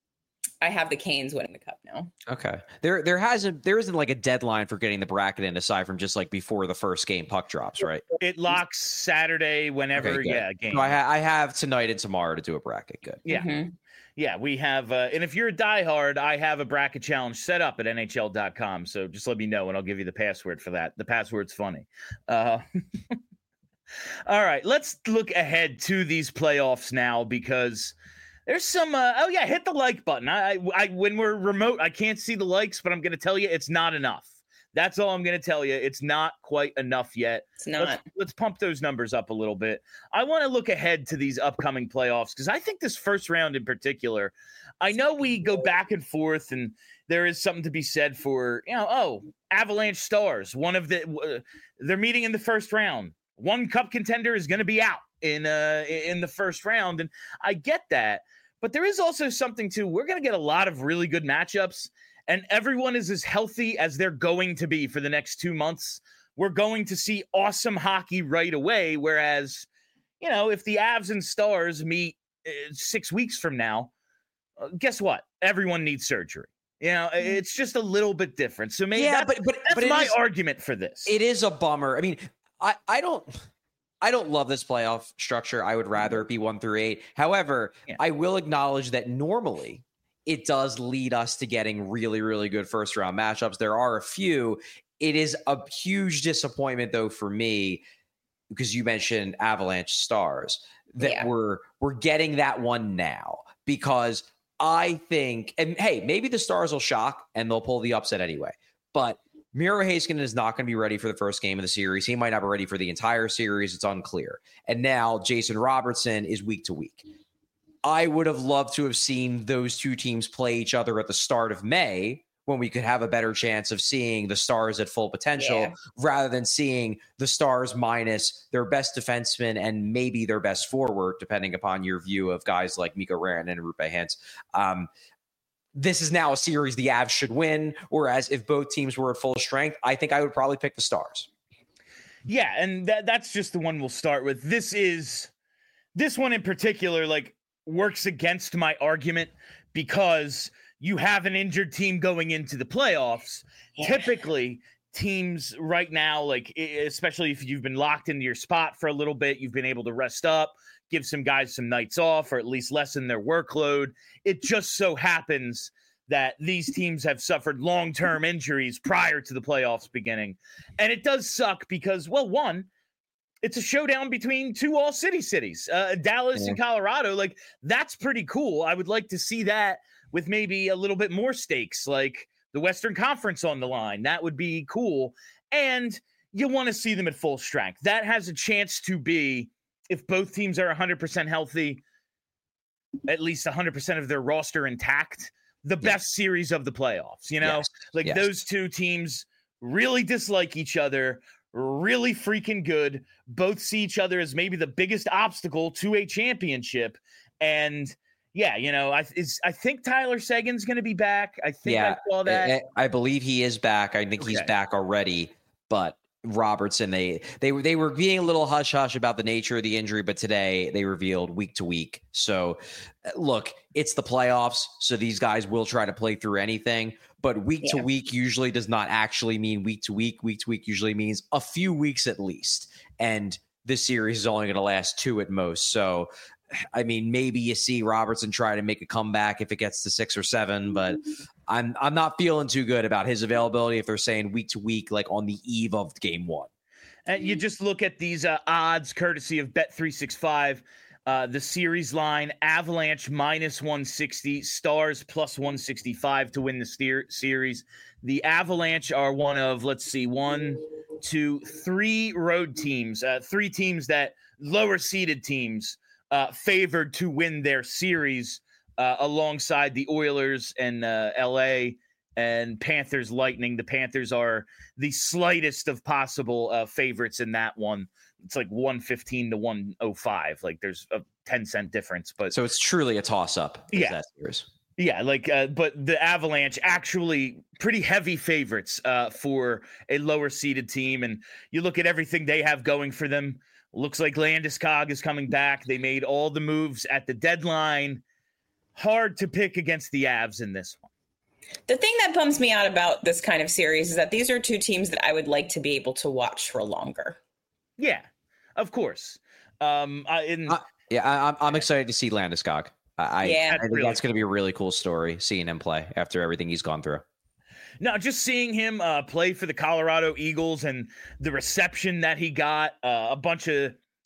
[SPEAKER 2] I have the Canes winning the cup now.
[SPEAKER 3] Okay. There there hasn't there isn't like a deadline for getting the bracket in aside from just like before the first game puck drops, right?
[SPEAKER 1] It locks Saturday whenever,
[SPEAKER 3] okay,
[SPEAKER 1] yeah, game.
[SPEAKER 3] So I, ha- I have tonight and tomorrow to do a bracket. Good.
[SPEAKER 1] Yeah. Mm-hmm. Yeah, we have, uh, and if you're a diehard, I have a bracket challenge set up at N H L dot com. So just let me know and I'll give you the password for that. The password's funny. Uh, all right, let's look ahead to these playoffs now because there's some, uh, oh yeah, hit the like button. I, I, I, when we're remote, I can't see the likes, but I'm going to tell you it's not enough. That's all I'm going to tell you. It's not quite enough yet.
[SPEAKER 2] It's not.
[SPEAKER 1] Let's, let's pump those numbers up a little bit. I want to look ahead to these upcoming playoffs because I think this first round in particular, I know we go back and forth and there is something to be said for, you know, oh, Avalanche Stars, one of the, uh, they're meeting in the first round. One cup contender is going to be out in uh in the first round. And I get that. But there is also something to, we're going to get a lot of really good matchups and everyone is as healthy as they're going to be for the next two months. We're going to see awesome hockey right away. Whereas, you know, if the Avs and Stars meet uh, six weeks from now, uh, guess what? Everyone needs surgery. You know, it's just a little bit different. So maybe
[SPEAKER 3] yeah,
[SPEAKER 1] that's,
[SPEAKER 3] but, but,
[SPEAKER 1] that's
[SPEAKER 3] but
[SPEAKER 1] my
[SPEAKER 3] is,
[SPEAKER 1] argument for this.
[SPEAKER 3] It is a bummer. I mean, I, I don't... I don't love this playoff structure. I would rather it be one through eight. However, yeah. I will acknowledge that normally it does lead us to getting really, really good first round matchups. There are a few. It is a huge disappointment, though, for me, because you mentioned Avalanche Stars, that yeah. we're we're getting that one now because I think, and hey, maybe the Stars will shock and they'll pull the upset anyway, but Miro Heiskanen is not going to be ready for the first game of the series. He might not be ready for the entire series. It's unclear. And now Jason Robertson is week to week. I would have loved to have seen those two teams play each other at the start of May when we could have a better chance of seeing the Stars at full potential yeah. rather than seeing the Stars minus their best defenseman and maybe their best forward, depending upon your view of guys like Mikko Rantanen and Roope Hintz. Um, This is now a series the Avs should win, whereas if both teams were at full strength, I think I would probably pick the Stars.
[SPEAKER 1] Yeah, and that, that's just the one we'll start with. This is this one in particular, like, works against my argument because you have an injured team going into the playoffs. Yeah. Typically, teams right now, like, especially if you've been locked into your spot for a little bit, you've been able to rest up, give some guys some nights off, or at least lessen their workload. It just so happens that these teams have suffered long-term injuries prior to the playoffs beginning. And it does suck because, well, one, it's a showdown between two all-city cities, uh, Dallas yeah. and Colorado. Like, that's pretty cool. I would like to see that with maybe a little bit more stakes, like the Western Conference on the line. That would be cool. And you want to see them at full strength. That has a chance to be, if both teams are one hundred percent healthy, at least one hundred percent of their roster intact, the best yes. series of the playoffs, you know? Yes. Like yes. those two teams really dislike each other, really freaking good, both see each other as maybe the biggest obstacle to a championship. And yeah, you know, I is I think Tyler Seguin's going to be back. I think
[SPEAKER 3] yeah,
[SPEAKER 1] I saw that.
[SPEAKER 3] I, I believe he is back. I think okay. he's back already, but Robertson, they they were they were being a little hush hush about the nature of the injury, but today they revealed week to week. So, look, it's the playoffs, so these guys will try to play through anything. But week yeah. to week usually does not actually mean week to week. Week to week usually means a few weeks at least, and this series is only going to last two at most. So, I mean, maybe you see Robertson try to make a comeback if it gets to six or seven, but I'm I'm not feeling too good about his availability if they're saying week to week, like on the eve of game one.
[SPEAKER 1] And you just look at these uh, odds courtesy of Bet three sixty-five. Uh, the series line, Avalanche minus one sixty, Stars plus one sixty-five to win the steer- series. The Avalanche are one of, let's see, one, two, three road teams, uh, three teams that lower seeded teams uh, favored to win their series uh, alongside the Oilers and uh, L A and Panthers Lightning. The Panthers are the slightest of possible uh, favorites in that one. It's like one fifteen to one oh five. Like there's a ten cent difference, but
[SPEAKER 3] so it's truly a toss up.
[SPEAKER 1] Yeah.
[SPEAKER 3] That series.
[SPEAKER 1] Yeah. Like, uh, but the Avalanche actually pretty heavy favorites uh, for a lower seeded team. And you look at everything they have going for them. Looks like Landeskog is coming back. They made all the moves at the deadline. Hard to pick against the Avs in this one.
[SPEAKER 2] The thing that bums me out about this kind of series is that these are two teams that I would like to be able to watch for longer.
[SPEAKER 1] Yeah, of course. Um, I, in,
[SPEAKER 3] uh, yeah, I, I'm I'm excited to see Landeskog. I,
[SPEAKER 2] yeah,
[SPEAKER 3] I think
[SPEAKER 1] really
[SPEAKER 3] that's going to be a really cool story, seeing him play after everything he's gone through.
[SPEAKER 1] No, just seeing him uh, play for the Colorado Eagles and the reception that he got, uh, a bunch of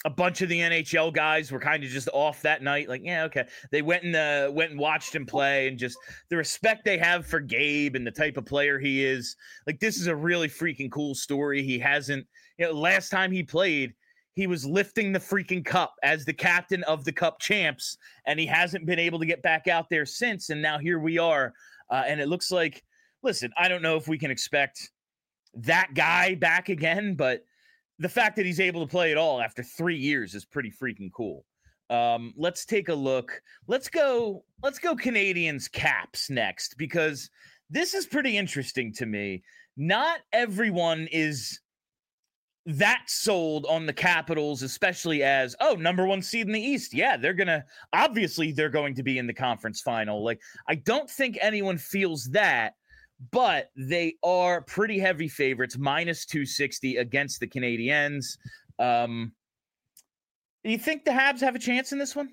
[SPEAKER 1] a bunch of the N H L guys were kind of just off that night. Like, yeah, okay. They went and uh, went and watched him play, and just the respect they have for Gabe and the type of player he is. Like, this is a really freaking cool story. He hasn't, you know, last time he played, he was lifting the freaking cup as the captain of the Cup champs, and he hasn't been able to get back out there since. And now here we are. Uh, and it looks like, listen, I don't know if we can expect that guy back again, but the fact that he's able to play it all after three years is pretty freaking cool. Um, let's take a look. Let's go. Let's go Canadians Caps next, because this is pretty interesting to me. Not everyone is that sold on the Capitals, especially as, oh, number one seed in the East. Yeah, they're going to, obviously they're going to be in the conference final. Like, I don't think anyone feels that, but they are pretty heavy favorites, minus two sixty against the Canadiens. Um, do you think the Habs have a chance in this one?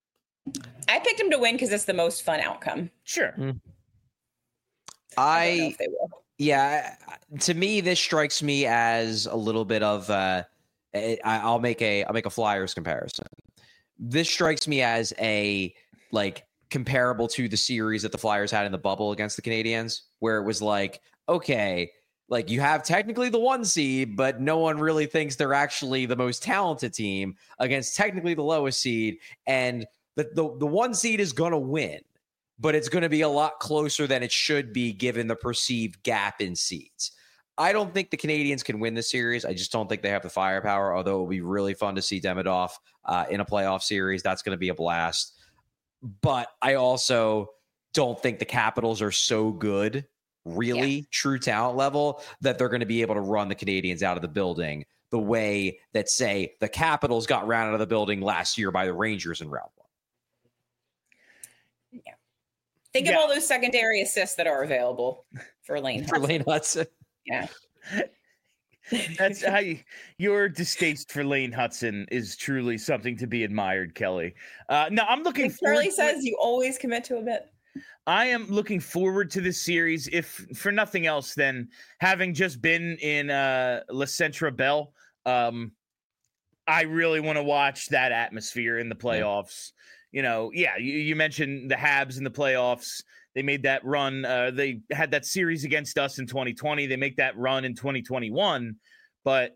[SPEAKER 2] I picked them to win because it's the most fun outcome.
[SPEAKER 1] Sure.
[SPEAKER 3] Mm.
[SPEAKER 2] I,
[SPEAKER 3] I,
[SPEAKER 2] don't know if they will.
[SPEAKER 3] yeah, to me, this strikes me as a little bit of, uh, I, I'll make a, I'll make a Flyers comparison. This strikes me as a, like, comparable to the series that the Flyers had in the bubble against the Canadiens, where it was like, okay, like you have technically the one seed, but no one really thinks they're actually the most talented team against technically the lowest seed. And the, the, the one seed is going to win, but it's going to be a lot closer than it should be given the perceived gap in seeds. I don't think the Canadians can win this series. I just don't think they have the firepower, although it will be really fun to see Demidov uh, in a playoff series. That's going to be a blast. But I also don't think the Capitals are so good, really yeah. true talent level, that they're going to be able to run the Canadians out of the building the way that, say, the Capitals got ran out of the building last year by the Rangers in round one.
[SPEAKER 2] Yeah. Think yeah. of all those secondary assists that are available for Lane
[SPEAKER 3] for
[SPEAKER 2] Hudson.
[SPEAKER 3] Lane Hudson.
[SPEAKER 2] Yeah.
[SPEAKER 1] That's how you, your distaste for Lane Hudson is truly something to be admired, Kelly. Uh, no, I'm looking.
[SPEAKER 2] Like Charlie says, you always commit to a bit.
[SPEAKER 1] I am looking forward to this series, if for nothing else than having just been in uh, Le Centre Bell. Um, I really want to watch that atmosphere in the playoffs. Yeah. You know, yeah, you, you mentioned the Habs in the playoffs. They made that run. Uh, they had that series against us in twenty twenty. They make that run in twenty twenty-one, but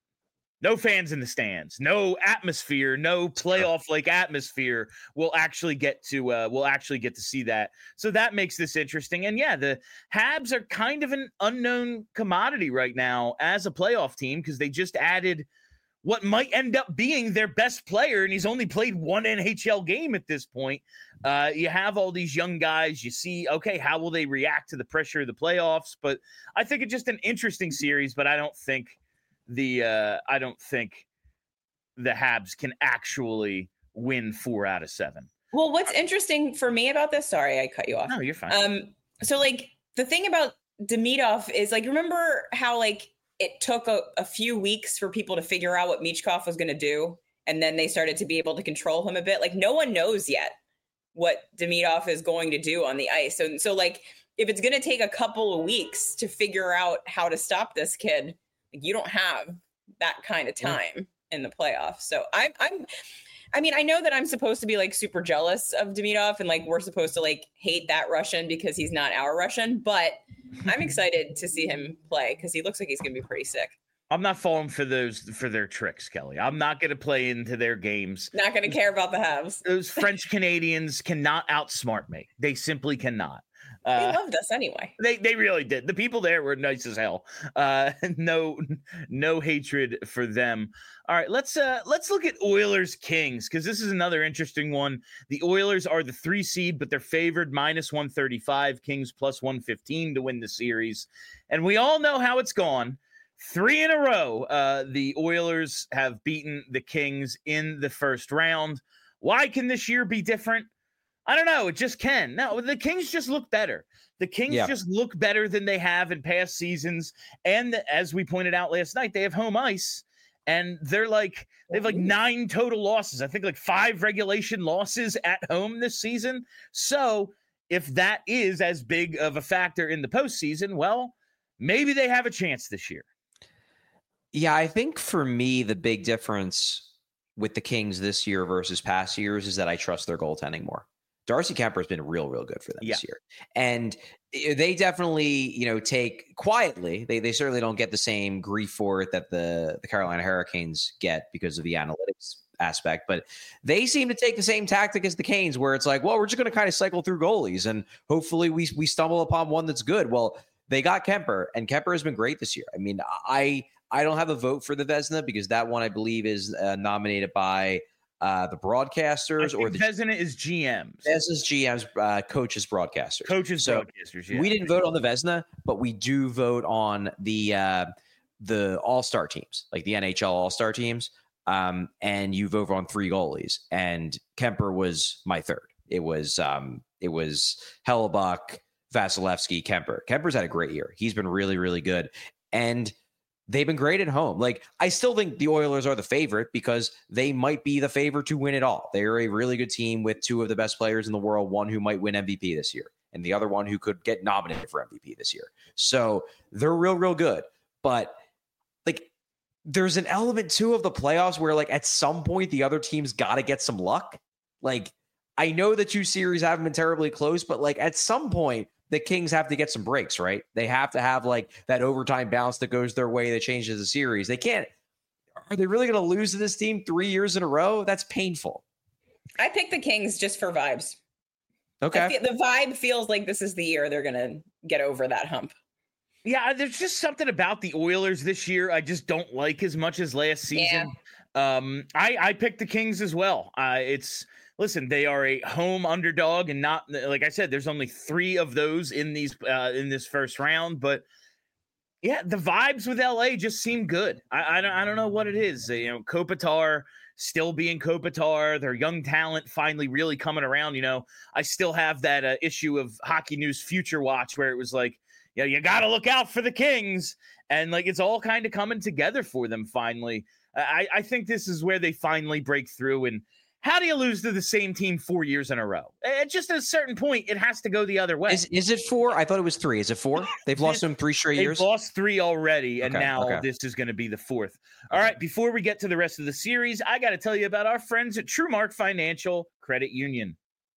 [SPEAKER 1] no fans in the stands, no atmosphere, no playoff-like atmosphere. We'll actually get to uh, we'll actually get to see that. So that makes this interesting. And yeah, the Habs are kind of an unknown commodity right now as a playoff team, because they just added what might end up being their best player, and he's only played one N H L game at this point. Uh, you have all these young guys. You see, okay, how will they react to the pressure of the playoffs? But I think it's just an interesting series, but I don't think the uh, I don't think the Habs can actually win four out of seven.
[SPEAKER 2] Well, what's interesting for me about this, sorry, I cut you off.
[SPEAKER 1] No, you're fine.
[SPEAKER 2] Um, so like the thing about Demidov is, like, remember how like it took a, a few weeks for people to figure out what Michkov was going to do, and then they started to be able to control him a bit. Like, no one knows yet what Demidov is going to do on the ice. So, so like, if it's going to take a couple of weeks to figure out how to stop this kid, like, you don't have that kind of time yeah. in the playoffs. So I'm, I'm, I mean, I know that I'm supposed to be like super jealous of Demidov, and like we're supposed to like hate that Russian because he's not our Russian, but I'm excited to see him play because he looks like he's going to be pretty sick.
[SPEAKER 1] I'm not falling for those for their tricks, Kelly. I'm not going to play into their games.
[SPEAKER 2] Not going to care about the Habs.
[SPEAKER 1] Those French Canadians cannot outsmart me. They simply cannot.
[SPEAKER 2] They
[SPEAKER 1] Uh,
[SPEAKER 2] loved us anyway.
[SPEAKER 1] They they really did. The people there were nice as hell. Uh, no no hatred for them. All right, let's uh let's look at Oilers Kings, because this is another interesting one. The Oilers are the three seed, but they're favored minus one thirty-five. Kings plus one fifteen to win the series, and we all know how it's gone. Three in a row, uh, the Oilers have beaten the Kings in the first round. Why can this year be different? I don't know. It just can. No, the Kings just look better. The Kings yeah. just look better than they have in past seasons. And as we pointed out last night, they have home ice, and they're like, they have like nine total losses. I think like five regulation losses at home this season. So if that is as big of a factor in the postseason, well, maybe they have a chance this year.
[SPEAKER 3] Yeah, I think for me, the big difference with the Kings this year versus past years is that I trust their goaltending more. Darcy Kemper has been real, real good for them
[SPEAKER 1] yeah.
[SPEAKER 3] this year. And they definitely, you know, take quietly. They they certainly don't get the same grief for it that the, the Carolina Hurricanes get because of the analytics aspect. But they seem to take the same tactic as the Canes, where it's like, well, we're just going to kind of cycle through goalies and hopefully we we stumble upon one that's good. Well, they got Kemper, and Kemper has been great this year. I mean, I I don't have a vote for the Vezina because that one I believe is uh, nominated by uh, the broadcasters or the
[SPEAKER 1] Vezina is G Ms.
[SPEAKER 3] Vezina's G Ms, uh, coaches, broadcasters.
[SPEAKER 1] Coaches,
[SPEAKER 3] so
[SPEAKER 1] broadcasters. Yeah.
[SPEAKER 3] We didn't vote on the Vezina, but we do vote on the uh, the All Star teams, like the N H L All Star teams. Um, and you vote on three goalies, and Kemper was my third. It was um, it was Hellebuck, Vasilevsky, Kemper. Kemper's had a great year. He's been really, really good. And they've been great at home. Like, I still think the Oilers are the favorite because they might be the favorite to win it all. They're a really good team with two of the best players in the world, one who might win M V P this year, and the other one who could get nominated for M V P this year. So they're real, real good. But, like, there's an element, too, of the playoffs where, like, at some point the other team's got to get some luck. Like, I know the two series haven't been terribly close, but, like, at some point, the Kings have to get some breaks, right? They have to have like that overtime bounce that goes their way that changes the series. They can't. Are they really going to lose to this team three years in a row? That's painful.
[SPEAKER 2] I picked the Kings just for vibes.
[SPEAKER 3] Okay.
[SPEAKER 2] Feel, the vibe feels like this is the year they're going to get over that hump.
[SPEAKER 1] Yeah, there's just something about the Oilers this year I just don't like as much as last season. Yeah. Um, I, I picked the Kings as well. Uh, it's listen, they are a home underdog, and not like I said, there's only three of those in these uh, in this first round. But yeah, the vibes with L A just seem good. I, I don't I don't know what it is. You know, Kopitar still being Kopitar, their young talent finally really coming around. You know, I still have that uh, issue of Hockey News Future Watch where it was like, yeah, you, know, you got to look out for the Kings, and like it's all kind of coming together for them finally. I, I think this is where they finally break through. And how do you lose to the same team four years in a row? At just at a certain point, it has to go the other way.
[SPEAKER 3] Is, is it four? I thought it was three. Is it four? They've lost them three straight
[SPEAKER 1] They've
[SPEAKER 3] years?
[SPEAKER 1] They've lost three already, and
[SPEAKER 3] okay,
[SPEAKER 1] now
[SPEAKER 3] okay.
[SPEAKER 1] this is going to be the fourth. All right, before we get to the rest of the series, I got to tell you about our friends at TrueMark Financial Credit Union.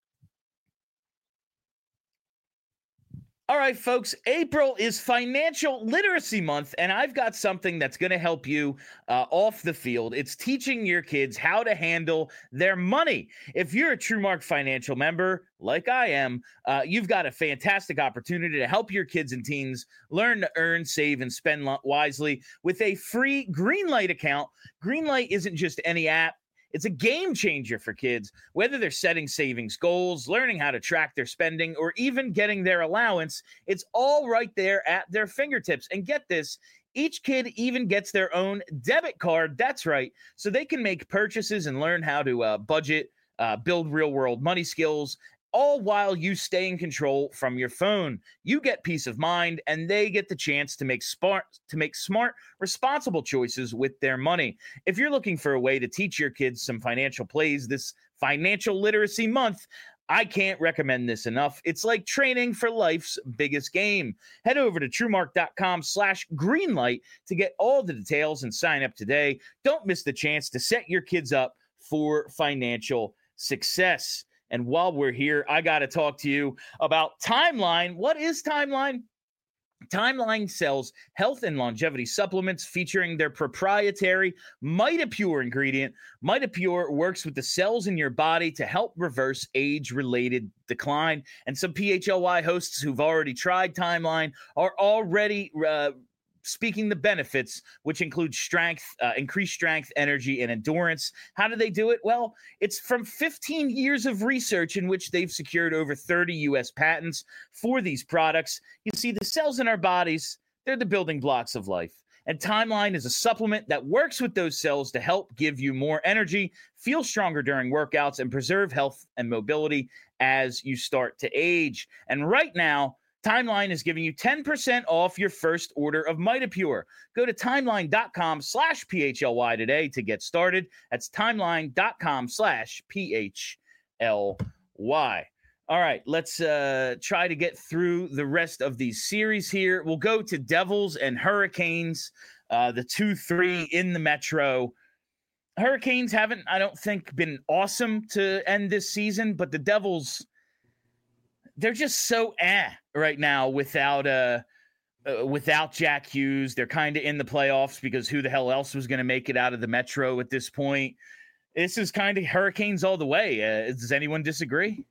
[SPEAKER 1] All right, folks, April is Financial Literacy Month, and I've got something that's going to help you uh, off the field. It's teaching your kids how to handle their money. If you're a TrueMark Financial member, like I am, uh, you've got a fantastic opportunity to help your kids and teens learn to earn, save, and spend wisely with a free Greenlight account. Greenlight isn't just any app. It's a game changer for kids, whether they're setting savings goals, learning how to track their spending, or even getting their allowance. It's all right there at their fingertips. And get this, each kid even gets their own debit card. That's right. So they can make purchases and learn how to uh, budget, uh, build real-world money skills, all while you stay in control from your phone. You get peace of mind, and they get the chance to make smart, to make smart, responsible choices with their money. If you're looking for a way to teach your kids some financial plays this Financial Literacy Month, I can't recommend this enough. It's like training for life's biggest game. Head over to TrueMark.com slash Greenlight to get all the details and sign up today. Don't miss the chance to set your kids up for financial success. And while we're here, I got to talk to you about Timeline. What is Timeline? Timeline sells health and longevity supplements featuring their proprietary MitoPure ingredient. MitoPure works with the cells in your body to help reverse age-related decline. And some P H L Y hosts who've already tried Timeline are already uh, speaking the benefits, which include strength, uh, increased strength, energy, and endurance. How do they do it? Well, it's from fifteen years of research in which they've secured over thirty U S patents for these products. You see, the cells in our bodies, they're the building blocks of life. And Timeline is a supplement that works with those cells to help give you more energy, feel stronger during workouts, and preserve health and mobility as you start to age. And right now, Timeline is giving you ten percent off your first order of MitoPure. Go to timeline.com slash PHLY today to get started. That's timeline.com slash PHLY. All right, let's uh, try to get through the rest of these series here. We'll go to Devils and Hurricanes, uh, the two three in the Metro. Hurricanes haven't, I don't think, been awesome to end this season, but the Devils, they're just so eh right now without uh, uh without Jack Hughes. They're kind of in the playoffs because who the hell else was going to make it out of the Metro at this point? This is kind of Hurricanes all the way. Uh, does anyone disagree?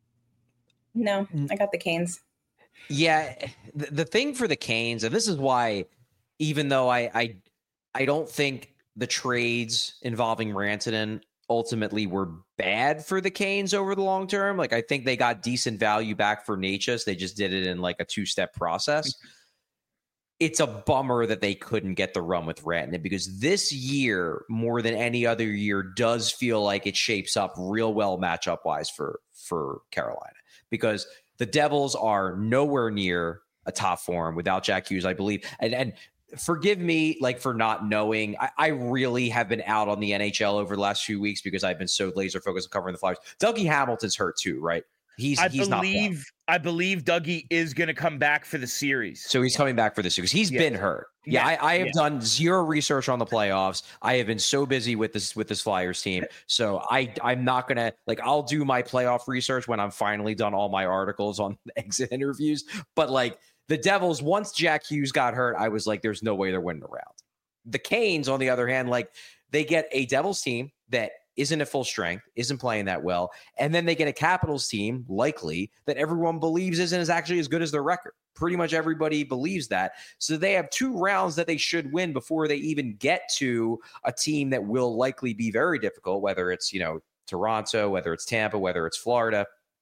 [SPEAKER 2] No, I got the Canes.
[SPEAKER 3] Yeah, the, the thing for the Canes, and this is why, even though I I, I don't think the trades involving Rantanen ultimately were bad for the Canes over the long term. Like, I think they got decent value back for Necas. They just did it in like a two-step process. It's a bummer that they couldn't get the run with Rantanen, because this year, more than any other year, does feel like it shapes up real well matchup-wise for, for Carolina. Because the Devils are nowhere near a top form without Jack Hughes, I believe. And and forgive me, like, for not knowing. I, I really have been out on the N H L over the last few weeks because I've been so laser focused on covering the Flyers. Dougie Hamilton's hurt too, right? He's
[SPEAKER 1] I
[SPEAKER 3] he's
[SPEAKER 1] believe
[SPEAKER 3] not
[SPEAKER 1] I believe Dougie is going to come back for the series.
[SPEAKER 3] So he's coming back for this because he's
[SPEAKER 1] Yeah.
[SPEAKER 3] been hurt. Yeah,
[SPEAKER 1] Yeah.
[SPEAKER 3] I, I have
[SPEAKER 1] Yeah.
[SPEAKER 3] done zero research on the playoffs. I have been so busy with this with this Flyers team. So I I'm not gonna like I'll do my playoff research when I'm finally done all my articles on exit interviews. But like the Devils, once Jack Hughes got hurt, I was like, there's no way they're winning the round. The Canes, on the other hand, like they get a Devils team that isn't at full strength, isn't playing that well, and then they get a Capitals team, likely, that everyone believes isn't as actually as good as their record. Pretty much everybody believes that. So they have two rounds that they should win before they even get to a team that will likely be very difficult, whether it's, you know, Toronto, whether it's Tampa, whether it's Florida.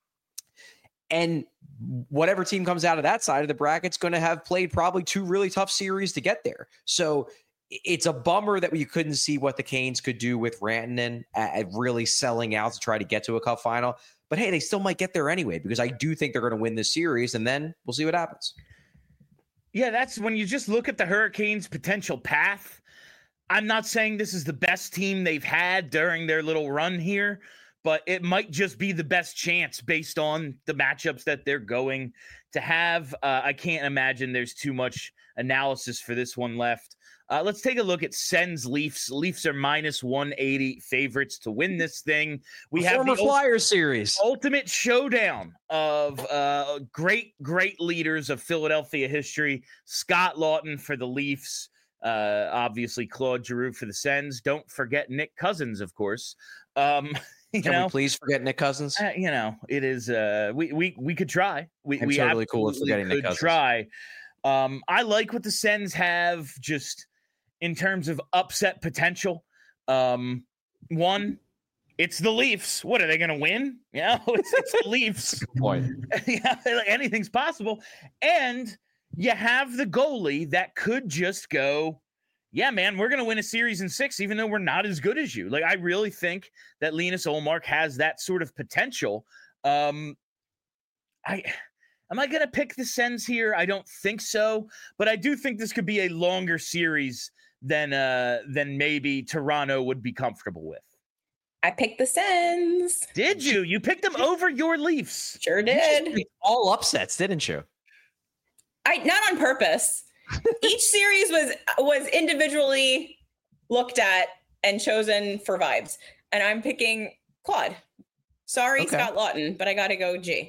[SPEAKER 3] And whatever team comes out of that side of the bracket's going to have played probably two really tough series to get there. So it's a bummer that we couldn't see what the Canes could do with Rantanen at really selling out to try to get to a cup final. But hey, they still might get there anyway, because I do think they're going to win this series, and then we'll see what happens.
[SPEAKER 1] Yeah, that's when you just look at the Hurricanes' potential path. I'm not saying this is the best team they've had during their little run here, but it might just be the best chance based on the matchups that they're going to have. Uh, I can't imagine there's too much analysis for this one left. Uh, let's take a look at Sens Leafs. Leafs are minus one eighty favorites to win this thing. We
[SPEAKER 3] a
[SPEAKER 1] have
[SPEAKER 3] former
[SPEAKER 1] the
[SPEAKER 3] Flyers ult- series,
[SPEAKER 1] ultimate showdown of uh, great, great leaders of Philadelphia history. Scott Laughton for the Leafs. Uh, obviously, Claude Giroux for the Sens. Don't forget Nick Cousins, of course. Um, you
[SPEAKER 3] Can
[SPEAKER 1] know,
[SPEAKER 3] we please forget Nick Cousins?
[SPEAKER 1] Uh, you know, it is. Uh, we we we could try. We
[SPEAKER 3] I'm
[SPEAKER 1] we
[SPEAKER 3] totally cool with
[SPEAKER 1] absolutely
[SPEAKER 3] forgetting Nick
[SPEAKER 1] could
[SPEAKER 3] Cousins.
[SPEAKER 1] try. Um, I like what the Sens have just in terms of upset potential. Um, one, it's the Leafs. What are they going to win? Yeah, it's, it's the Leafs.
[SPEAKER 3] Good point.
[SPEAKER 1] Yeah, like anything's possible. And you have the goalie that could just go, yeah, man, we're going to win a series in six, even though we're not as good as you. Like, I really think that Linus Ullmark has that sort of potential. Um, I am I going to pick the Sens here? I don't think so, but I do think this could be a longer series than uh, than maybe Toronto would be comfortable with.
[SPEAKER 2] I picked the Sens.
[SPEAKER 1] Did you? You picked them over your Leafs.
[SPEAKER 2] Sure did.
[SPEAKER 3] All upsets, didn't you?
[SPEAKER 2] I not on purpose. Each series was was individually looked at and chosen for vibes, and I'm picking Claude. Sorry,
[SPEAKER 3] Okay.
[SPEAKER 2] Scott Laughton, but I got to go G.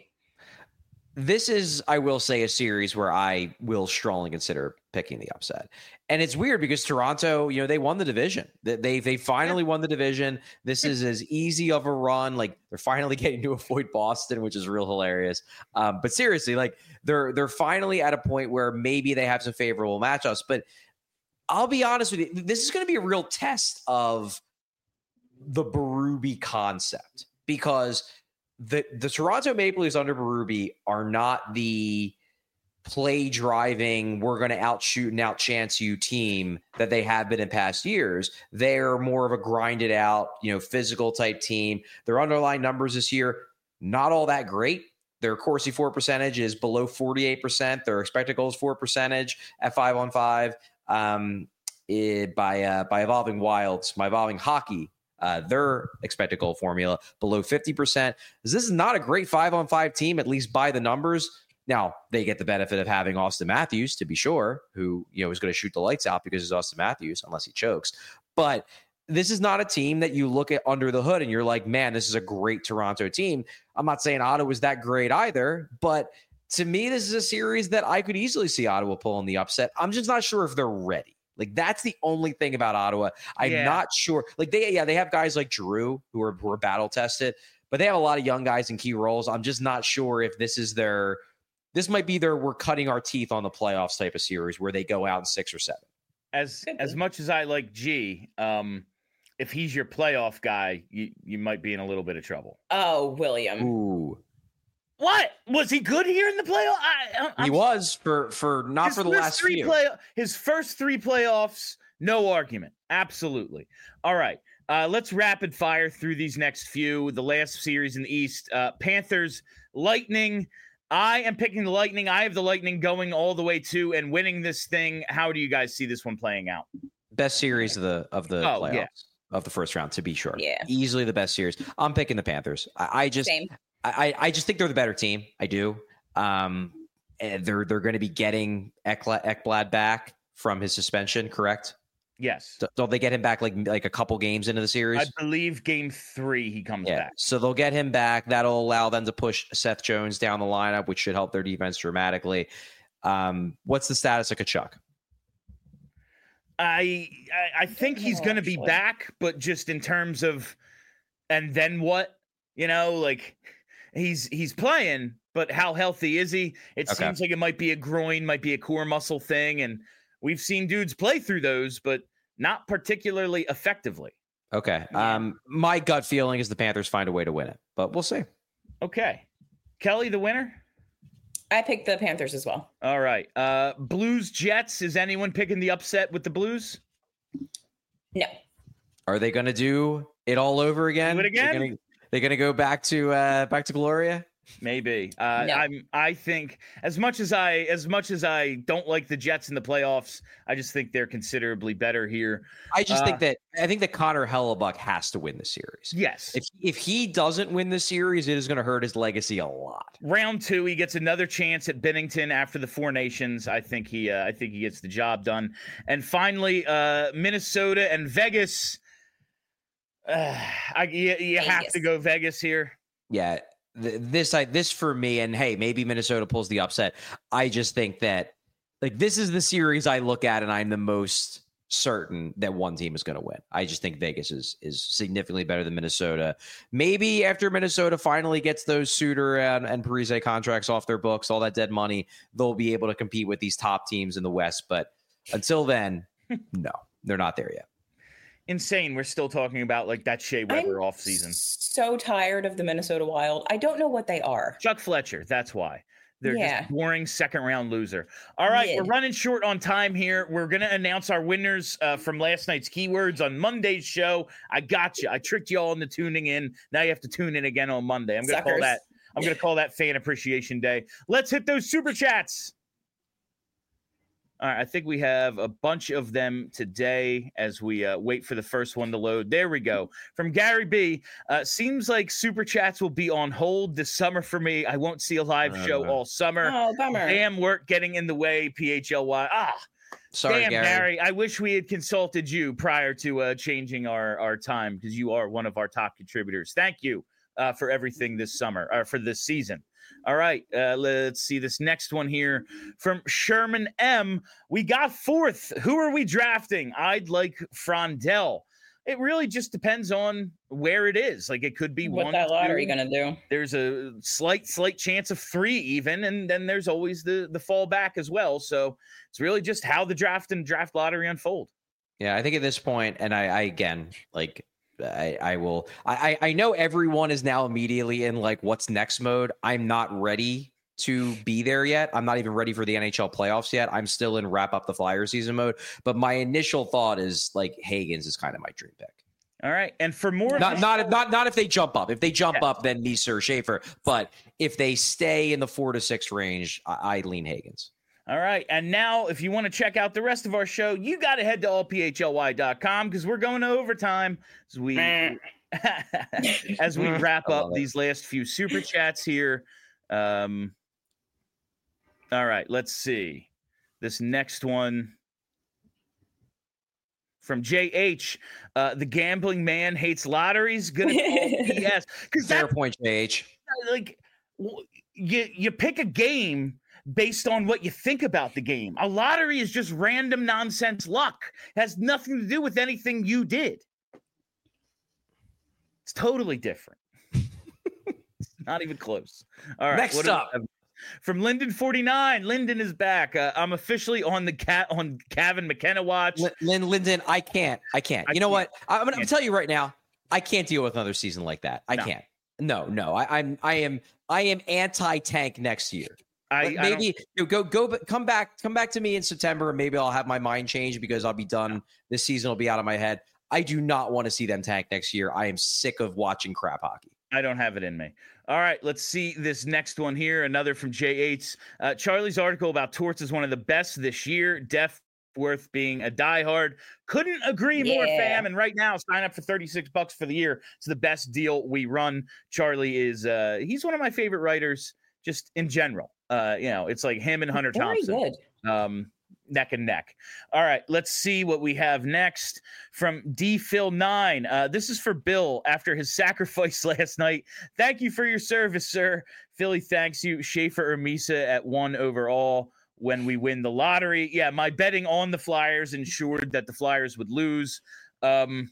[SPEAKER 3] This is, I will say, a series where I will strongly consider picking the upset. And it's weird because Toronto, you know, they won the division. They they, they finally won the division. This is as easy of a run. Like, they're finally getting to avoid Boston, which is real hilarious. Um, but seriously, like they're they're finally at a point where maybe they have some favorable matchups. But I'll be honest with you, this is going to be a real test of the Berube concept, because the the Toronto Maple Leafs under Berube are not the play driving, we're going to outshoot and outchance you team that they have been in past years. They're more of a grinded out, you know, physical type team. Their underlying numbers this year, not all that great. Their Corsi four percentage is below forty-eight percent. Their expected goals for percentage at five on five um, it, by uh, by Evolving Wilds, my Evolving Hockey. Uh, their expected goal formula below fifty percent. This is not a great five on five team, at least by the numbers. Now, they get the benefit of having Austin Matthews, to be sure, who, you know, is going to shoot the lights out because he's Austin Matthews, unless he chokes. But this is not a team that you look at under the hood and you're like, man, this is a great Toronto team. I'm not saying Ottawa's that great either, but to me, this is a series that I could easily see Ottawa pulling the upset. I'm just not sure if they're ready. Like, that's the only thing about Ottawa. I'm
[SPEAKER 1] Yeah.
[SPEAKER 3] not sure. Like, they, yeah, they have guys like Drew who are, who are battle tested, but they have a lot of young guys in key roles. I'm just not sure if this is their, this might be their, we're cutting our teeth on the playoffs type of series where they go out in six or seven.
[SPEAKER 1] As
[SPEAKER 2] Could
[SPEAKER 1] as
[SPEAKER 2] be.
[SPEAKER 1] much as I like G, um, if he's your playoff guy, you, you might be in a little bit of trouble.
[SPEAKER 2] Oh, William.
[SPEAKER 3] Ooh,
[SPEAKER 1] What? Was he good here in the playoff? I, I'm,
[SPEAKER 3] he was for, for not
[SPEAKER 1] his
[SPEAKER 3] for the
[SPEAKER 1] first
[SPEAKER 3] last
[SPEAKER 1] three
[SPEAKER 3] few.
[SPEAKER 1] play his first three playoffs, no argument. Absolutely. All right. Uh, let's rapid fire through these next few. The last series in the East, uh, Panthers, Lightning. I am picking the Lightning. I have the Lightning going all the way to and winning this thing. How do you guys see this one playing out?
[SPEAKER 3] Best series of the of the
[SPEAKER 1] Oh,
[SPEAKER 3] playoffs
[SPEAKER 1] yeah.
[SPEAKER 3] of the first round, to be sure.
[SPEAKER 2] Yeah.
[SPEAKER 3] Easily the best series. I'm picking the Panthers. I, I just
[SPEAKER 2] Same.
[SPEAKER 3] I, I just think they're the better team. I do. Um, and they're they're going to be getting Ekla, Ekblad back from his suspension, correct?
[SPEAKER 1] Yes.
[SPEAKER 3] So, don't they get him back like like a couple games into the series?
[SPEAKER 1] I believe game three he comes
[SPEAKER 3] yeah.
[SPEAKER 1] back.
[SPEAKER 3] So they'll get him back. That'll allow them to push Seth Jones down the lineup, which should help their defense dramatically. Um, what's the status of Kachuk?
[SPEAKER 1] I I, I think he's
[SPEAKER 2] know,
[SPEAKER 1] going to be
[SPEAKER 2] actually.
[SPEAKER 1] back, but just in terms of, and then what? You know, like he's he's playing, but how healthy is he? It
[SPEAKER 3] Okay.
[SPEAKER 1] seems like it might be a groin, might be a core muscle thing, and we've seen dudes play through those, but not particularly effectively.
[SPEAKER 3] Okay.
[SPEAKER 2] Yeah.
[SPEAKER 3] Um, my gut feeling is the Panthers find a way to win it, but we'll see.
[SPEAKER 1] Okay, Kelly, the winner.
[SPEAKER 2] I picked the Panthers as well.
[SPEAKER 1] All right, uh, Blues Jets. Is anyone picking the upset with the Blues?
[SPEAKER 2] No.
[SPEAKER 3] Are they going to do it all over again?
[SPEAKER 1] Do it again?
[SPEAKER 3] They're gonna, they're going to go back to uh, back to Gloria.
[SPEAKER 1] Maybe. Uh,
[SPEAKER 2] No.
[SPEAKER 1] I'm. I think as much as I as much as I don't like the Jets in the playoffs, I just think they're considerably better here.
[SPEAKER 3] I just
[SPEAKER 1] Uh,
[SPEAKER 3] think that I think that Connor Hellebuck has to win the series.
[SPEAKER 1] Yes.
[SPEAKER 3] If if he doesn't win the series, it is going to hurt his legacy a lot.
[SPEAKER 1] Round two, he gets another chance at Bennington after the Four Nations. I think he. Uh, I think he gets the job done. And finally, uh, Minnesota and Vegas. Uh, I you, you have
[SPEAKER 2] Vegas.
[SPEAKER 1] to go Vegas here.
[SPEAKER 3] Yeah, th- this I this for me, and hey, maybe Minnesota pulls the upset. I just think that like this is the series I look at, and I'm the most certain that one team is going to win. I just think Vegas is is significantly better than Minnesota. Maybe after Minnesota finally gets those Suter and, and Parise contracts off their books, all that dead money, they'll be able to compete with these top teams in the West. But until then, no, they're not there yet.
[SPEAKER 1] Insane. We're still talking about like that Shea Weber
[SPEAKER 2] I'm
[SPEAKER 1] off season.
[SPEAKER 2] so tired of the Minnesota Wild. I don't know what they are.
[SPEAKER 1] Chuck Fletcher. That's why. They're
[SPEAKER 2] Yeah.
[SPEAKER 1] just boring second round loser. All right,
[SPEAKER 2] Mid.
[SPEAKER 1] we're running short on time here. We're going to announce our winners uh, from last night's keywords on Monday's show. I got you. I tricked you all into tuning in. Now you have to tune in again on Monday. I'm going to call
[SPEAKER 2] Suckers.
[SPEAKER 1] that. I'm going to call that Fan Appreciation Day. Let's hit those super chats. All right, I think we have a bunch of them today as we uh, wait for the first one to load. There we go. From Gary B. Uh, seems like super chats will be on hold this summer for me. I won't see a live
[SPEAKER 3] Uh,
[SPEAKER 1] show all summer.
[SPEAKER 2] Oh, bummer.
[SPEAKER 1] Damn work getting in the way, P H L Y. Ah,
[SPEAKER 3] Sorry,
[SPEAKER 1] damn,
[SPEAKER 3] Gary.
[SPEAKER 1] Gary. I wish we had consulted you prior to uh, changing our, our time because you are one of our top contributors. Thank you uh, for everything this summer or for this season. All right, uh, let's see this next one here from Sherman M. We got fourth. Who are we drafting? I'd like Frondell. It really just depends on where it is. Like it could be
[SPEAKER 2] What
[SPEAKER 1] one.
[SPEAKER 2] that lottery
[SPEAKER 1] two,
[SPEAKER 2] gonna do?
[SPEAKER 1] There's a slight, slight chance of three even, and then there's always the the fallback as well. So it's really just how the draft and draft lottery unfold.
[SPEAKER 3] Yeah, I think at this point, and I, I again, like, I, I will, I, I know everyone is now immediately in like what's next mode. I'm not ready to be there yet. I'm not even ready for the N H L playoffs yet. I'm still in wrap up the Flyer season mode. But my initial thought is like Hagens is kind of my dream pick.
[SPEAKER 1] All right, and for more,
[SPEAKER 3] Not, not, if- not, not if they jump up. If they jump
[SPEAKER 1] Yeah.
[SPEAKER 3] up, then Nieser, Schaefer. But if they stay in the four to six range, I, I lean Hagens.
[SPEAKER 1] All right. And now, if you want to check out the rest of our show, you got to head to all p h l y dot com because we're going to overtime as we as we wrap
[SPEAKER 3] I
[SPEAKER 1] up
[SPEAKER 3] love it.
[SPEAKER 1] these last few super chats here. Um, all right. Let's see. This next one from J H. Uh, the gambling man hates lotteries. Gonna call B S. Because
[SPEAKER 3] Fair point, J H.
[SPEAKER 1] Like you, you pick a game based on what you think about the game. A lottery is just random nonsense luck. It has nothing to do with anything you did. It's totally different. It's not even close. All right.
[SPEAKER 3] Next up.
[SPEAKER 1] From Lyndon forty-nine, Lyndon is back. Uh, I'm officially on the cat on Kevin McKenna watch.
[SPEAKER 3] Lynn, Lyndon, I can't. I can't.
[SPEAKER 1] I
[SPEAKER 3] you know
[SPEAKER 1] can't.
[SPEAKER 3] what? I'm going to tell you right now. I can't deal with another season like that. I
[SPEAKER 1] No.
[SPEAKER 3] can't. No, no. I, I'm. I am. I am anti-tank next year.
[SPEAKER 1] I,
[SPEAKER 3] Like,
[SPEAKER 1] I
[SPEAKER 3] maybe you know, go go but come back come back to me in September and maybe I'll have my mind changed because I'll be done. This season will be out of my head. I do not want to see them tank next year. I am sick of watching crap hockey.
[SPEAKER 1] I don't have it in me. All right, let's see this next one here. Another from J H. Uh, Charlie's article about Torts is one of the best this year. Def worth being a diehard. Couldn't agree more,
[SPEAKER 2] Yeah.
[SPEAKER 1] fam. And right now, sign up for thirty-six bucks for the year. It's the best deal we run. Charlie is uh, he's one of my favorite writers, just in general. Uh, you know, it's like him and Hunter
[SPEAKER 2] Very
[SPEAKER 1] Thompson.
[SPEAKER 2] good.
[SPEAKER 1] Um, neck and neck. All right, let's see what we have next from D Phil nine. Uh, this is for Bill after his sacrifice last night. Thank you for your service, sir. Philly thanks you. Schaefer or Misa at one overall when we win the lottery. Yeah, my betting on the Flyers ensured that the Flyers would lose. Um,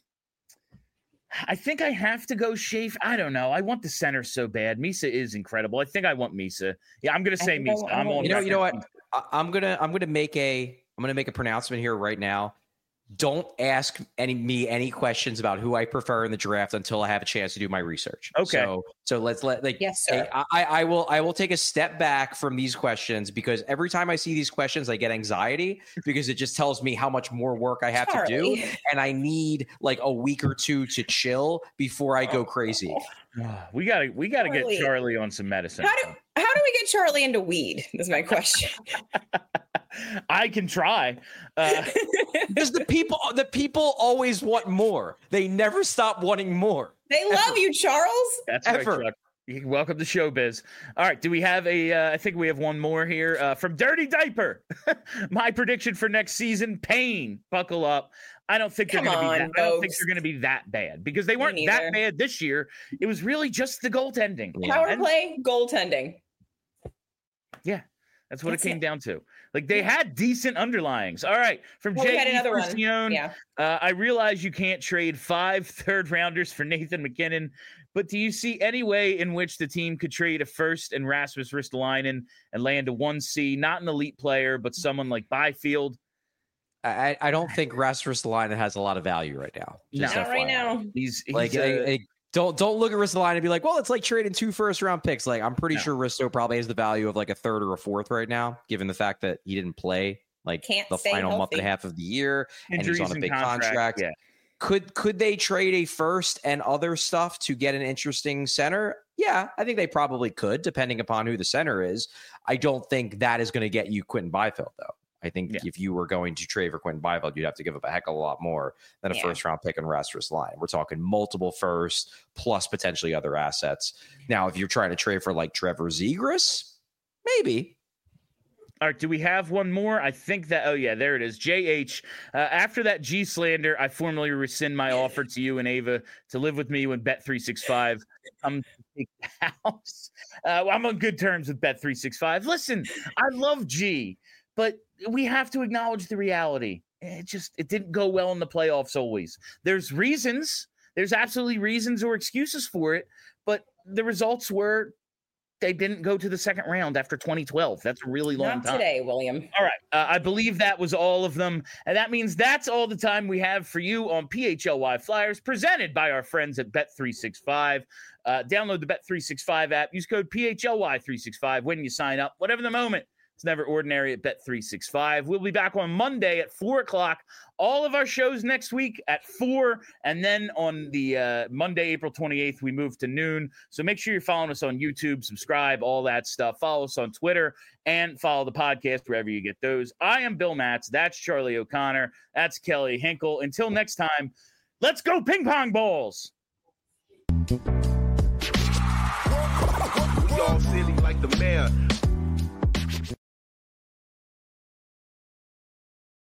[SPEAKER 1] I think I have to go Schaefer. I don't know. I want the center so bad. Misa is incredible. I think I want Misa. Yeah, I'm gonna
[SPEAKER 2] I
[SPEAKER 1] say
[SPEAKER 2] think I
[SPEAKER 1] Misa.
[SPEAKER 2] want-
[SPEAKER 1] I'm on.
[SPEAKER 3] You know, you know
[SPEAKER 1] record.
[SPEAKER 3] what? I, I'm gonna I'm gonna make a I'm gonna make a pronouncement here right now. Don't ask any me any questions about who I prefer in the draft until I have a chance to do my research.
[SPEAKER 1] Okay.
[SPEAKER 3] So so let's let like
[SPEAKER 2] Yes, sir.
[SPEAKER 3] I, I I will I will take a step back from these questions because every time I see these questions I get anxiety because it just tells me how much more work I have to do
[SPEAKER 2] Charlie.
[SPEAKER 3] and I need like a week or two to chill before I go crazy.
[SPEAKER 1] We gotta we gotta get
[SPEAKER 2] Charlie.
[SPEAKER 1] Charlie on some medicine.
[SPEAKER 2] How do how do we get Charlie into weed? Is my question.
[SPEAKER 1] I can try. Uh,
[SPEAKER 3] Because the people the people always want more. They never stop wanting more.
[SPEAKER 2] They love you, Charles.
[SPEAKER 1] that's
[SPEAKER 3] Ever.
[SPEAKER 1] right, Chuck. You- Welcome to Showbiz. All right, do we have a? Uh, I think we have one more here uh, from Dirty Diaper. My prediction for next season: Pain. Buckle up. I don't think they're
[SPEAKER 2] Come
[SPEAKER 1] going to be.
[SPEAKER 2] on,
[SPEAKER 1] That, I don't think
[SPEAKER 2] folks.
[SPEAKER 1] they're going to be that bad because they
[SPEAKER 2] Me
[SPEAKER 1] weren't
[SPEAKER 2] neither.
[SPEAKER 1] that bad this year. It was really just the goaltending.
[SPEAKER 3] Yeah.
[SPEAKER 2] Power
[SPEAKER 1] And-
[SPEAKER 2] play, goaltending.
[SPEAKER 1] That's what
[SPEAKER 2] That's
[SPEAKER 1] it came
[SPEAKER 2] it.
[SPEAKER 1] down to. Like they had decent underlyings. All right, from
[SPEAKER 2] Well, we
[SPEAKER 1] Jay
[SPEAKER 2] had another one.
[SPEAKER 1] Francione,
[SPEAKER 2] Yeah.
[SPEAKER 1] Uh, I realize you can't trade five third rounders for Nathan McKinnon, but do you see any way in which the team could trade a first and Rasmus Ristolainen and land a one C, not an elite player, but someone like Byfield?
[SPEAKER 3] I, I don't think Rasmus Ristolainen has a lot of value right now. Just
[SPEAKER 2] Not right
[SPEAKER 3] F Y I.
[SPEAKER 2] now.
[SPEAKER 1] He's, he's
[SPEAKER 3] Like,
[SPEAKER 1] uh,
[SPEAKER 3] I- I- don't don't look at Ristolainen and be like, well, it's like trading two first round picks. Like, I'm pretty
[SPEAKER 1] No.
[SPEAKER 3] sure Risto probably has the value of like a third or a fourth right now, given the fact that he didn't play like
[SPEAKER 2] Can't
[SPEAKER 3] the
[SPEAKER 2] stay
[SPEAKER 3] final month and a
[SPEAKER 2] healthy.
[SPEAKER 3] half of the year, and he's
[SPEAKER 1] injuries
[SPEAKER 3] on a
[SPEAKER 1] and
[SPEAKER 3] big
[SPEAKER 1] contract.
[SPEAKER 3] contract.
[SPEAKER 1] Yeah.
[SPEAKER 3] Could could they trade a first and other stuff to get an interesting center? Yeah, I think they probably could, depending upon who the center is. I don't think that is going to get you Quentin Byfield, though. I think
[SPEAKER 1] Yeah.
[SPEAKER 3] if you were going to trade for Quentin Byfield, you'd have to give up a heck of a lot more than a
[SPEAKER 2] Yeah.
[SPEAKER 3] first round pick and Rasmus line. We're talking multiple firsts plus potentially other assets. Now, if you're trying to trade for like Trevor Zegras, maybe.
[SPEAKER 1] All right, do we have one more? I think that, oh, yeah, there it is. J H. Uh, after that G slander, I formally rescind my offer to you and Ava to live with me when Bet three sixty-five comes to take the house. Uh, I'm on good terms with Bet three sixty-five. Listen, I love G, but we have to acknowledge the reality. It just, it didn't go well in the playoffs always. There's reasons, there's absolutely reasons or excuses for it, but the results were they didn't go to the second round after twenty twelve. That's a really long
[SPEAKER 2] Not
[SPEAKER 1] time.
[SPEAKER 2] today, William.
[SPEAKER 1] All right. Uh, I believe that was all of them. And that means that's all the time we have for you on P H L Y Flyers, presented by our friends at Bet three sixty-five. Uh, download the Bet three sixty-five app. Use code P H L Y three sixty-five when you sign up. Whatever the moment, it's never ordinary at Bet three sixty-five. We'll be back on Monday at four o'clock. All of our shows next week at four. And then on the uh, Monday, April twenty-eighth, we move to noon. So make sure you're following us on YouTube, subscribe, all that stuff. Follow us on Twitter and follow the podcast wherever you get those. I am Bill Matz. That's Charlie O'Connor. That's Kelly Hinkle. Until next time, let's go ping pong balls.
[SPEAKER 4] Y'all silly like the mayor.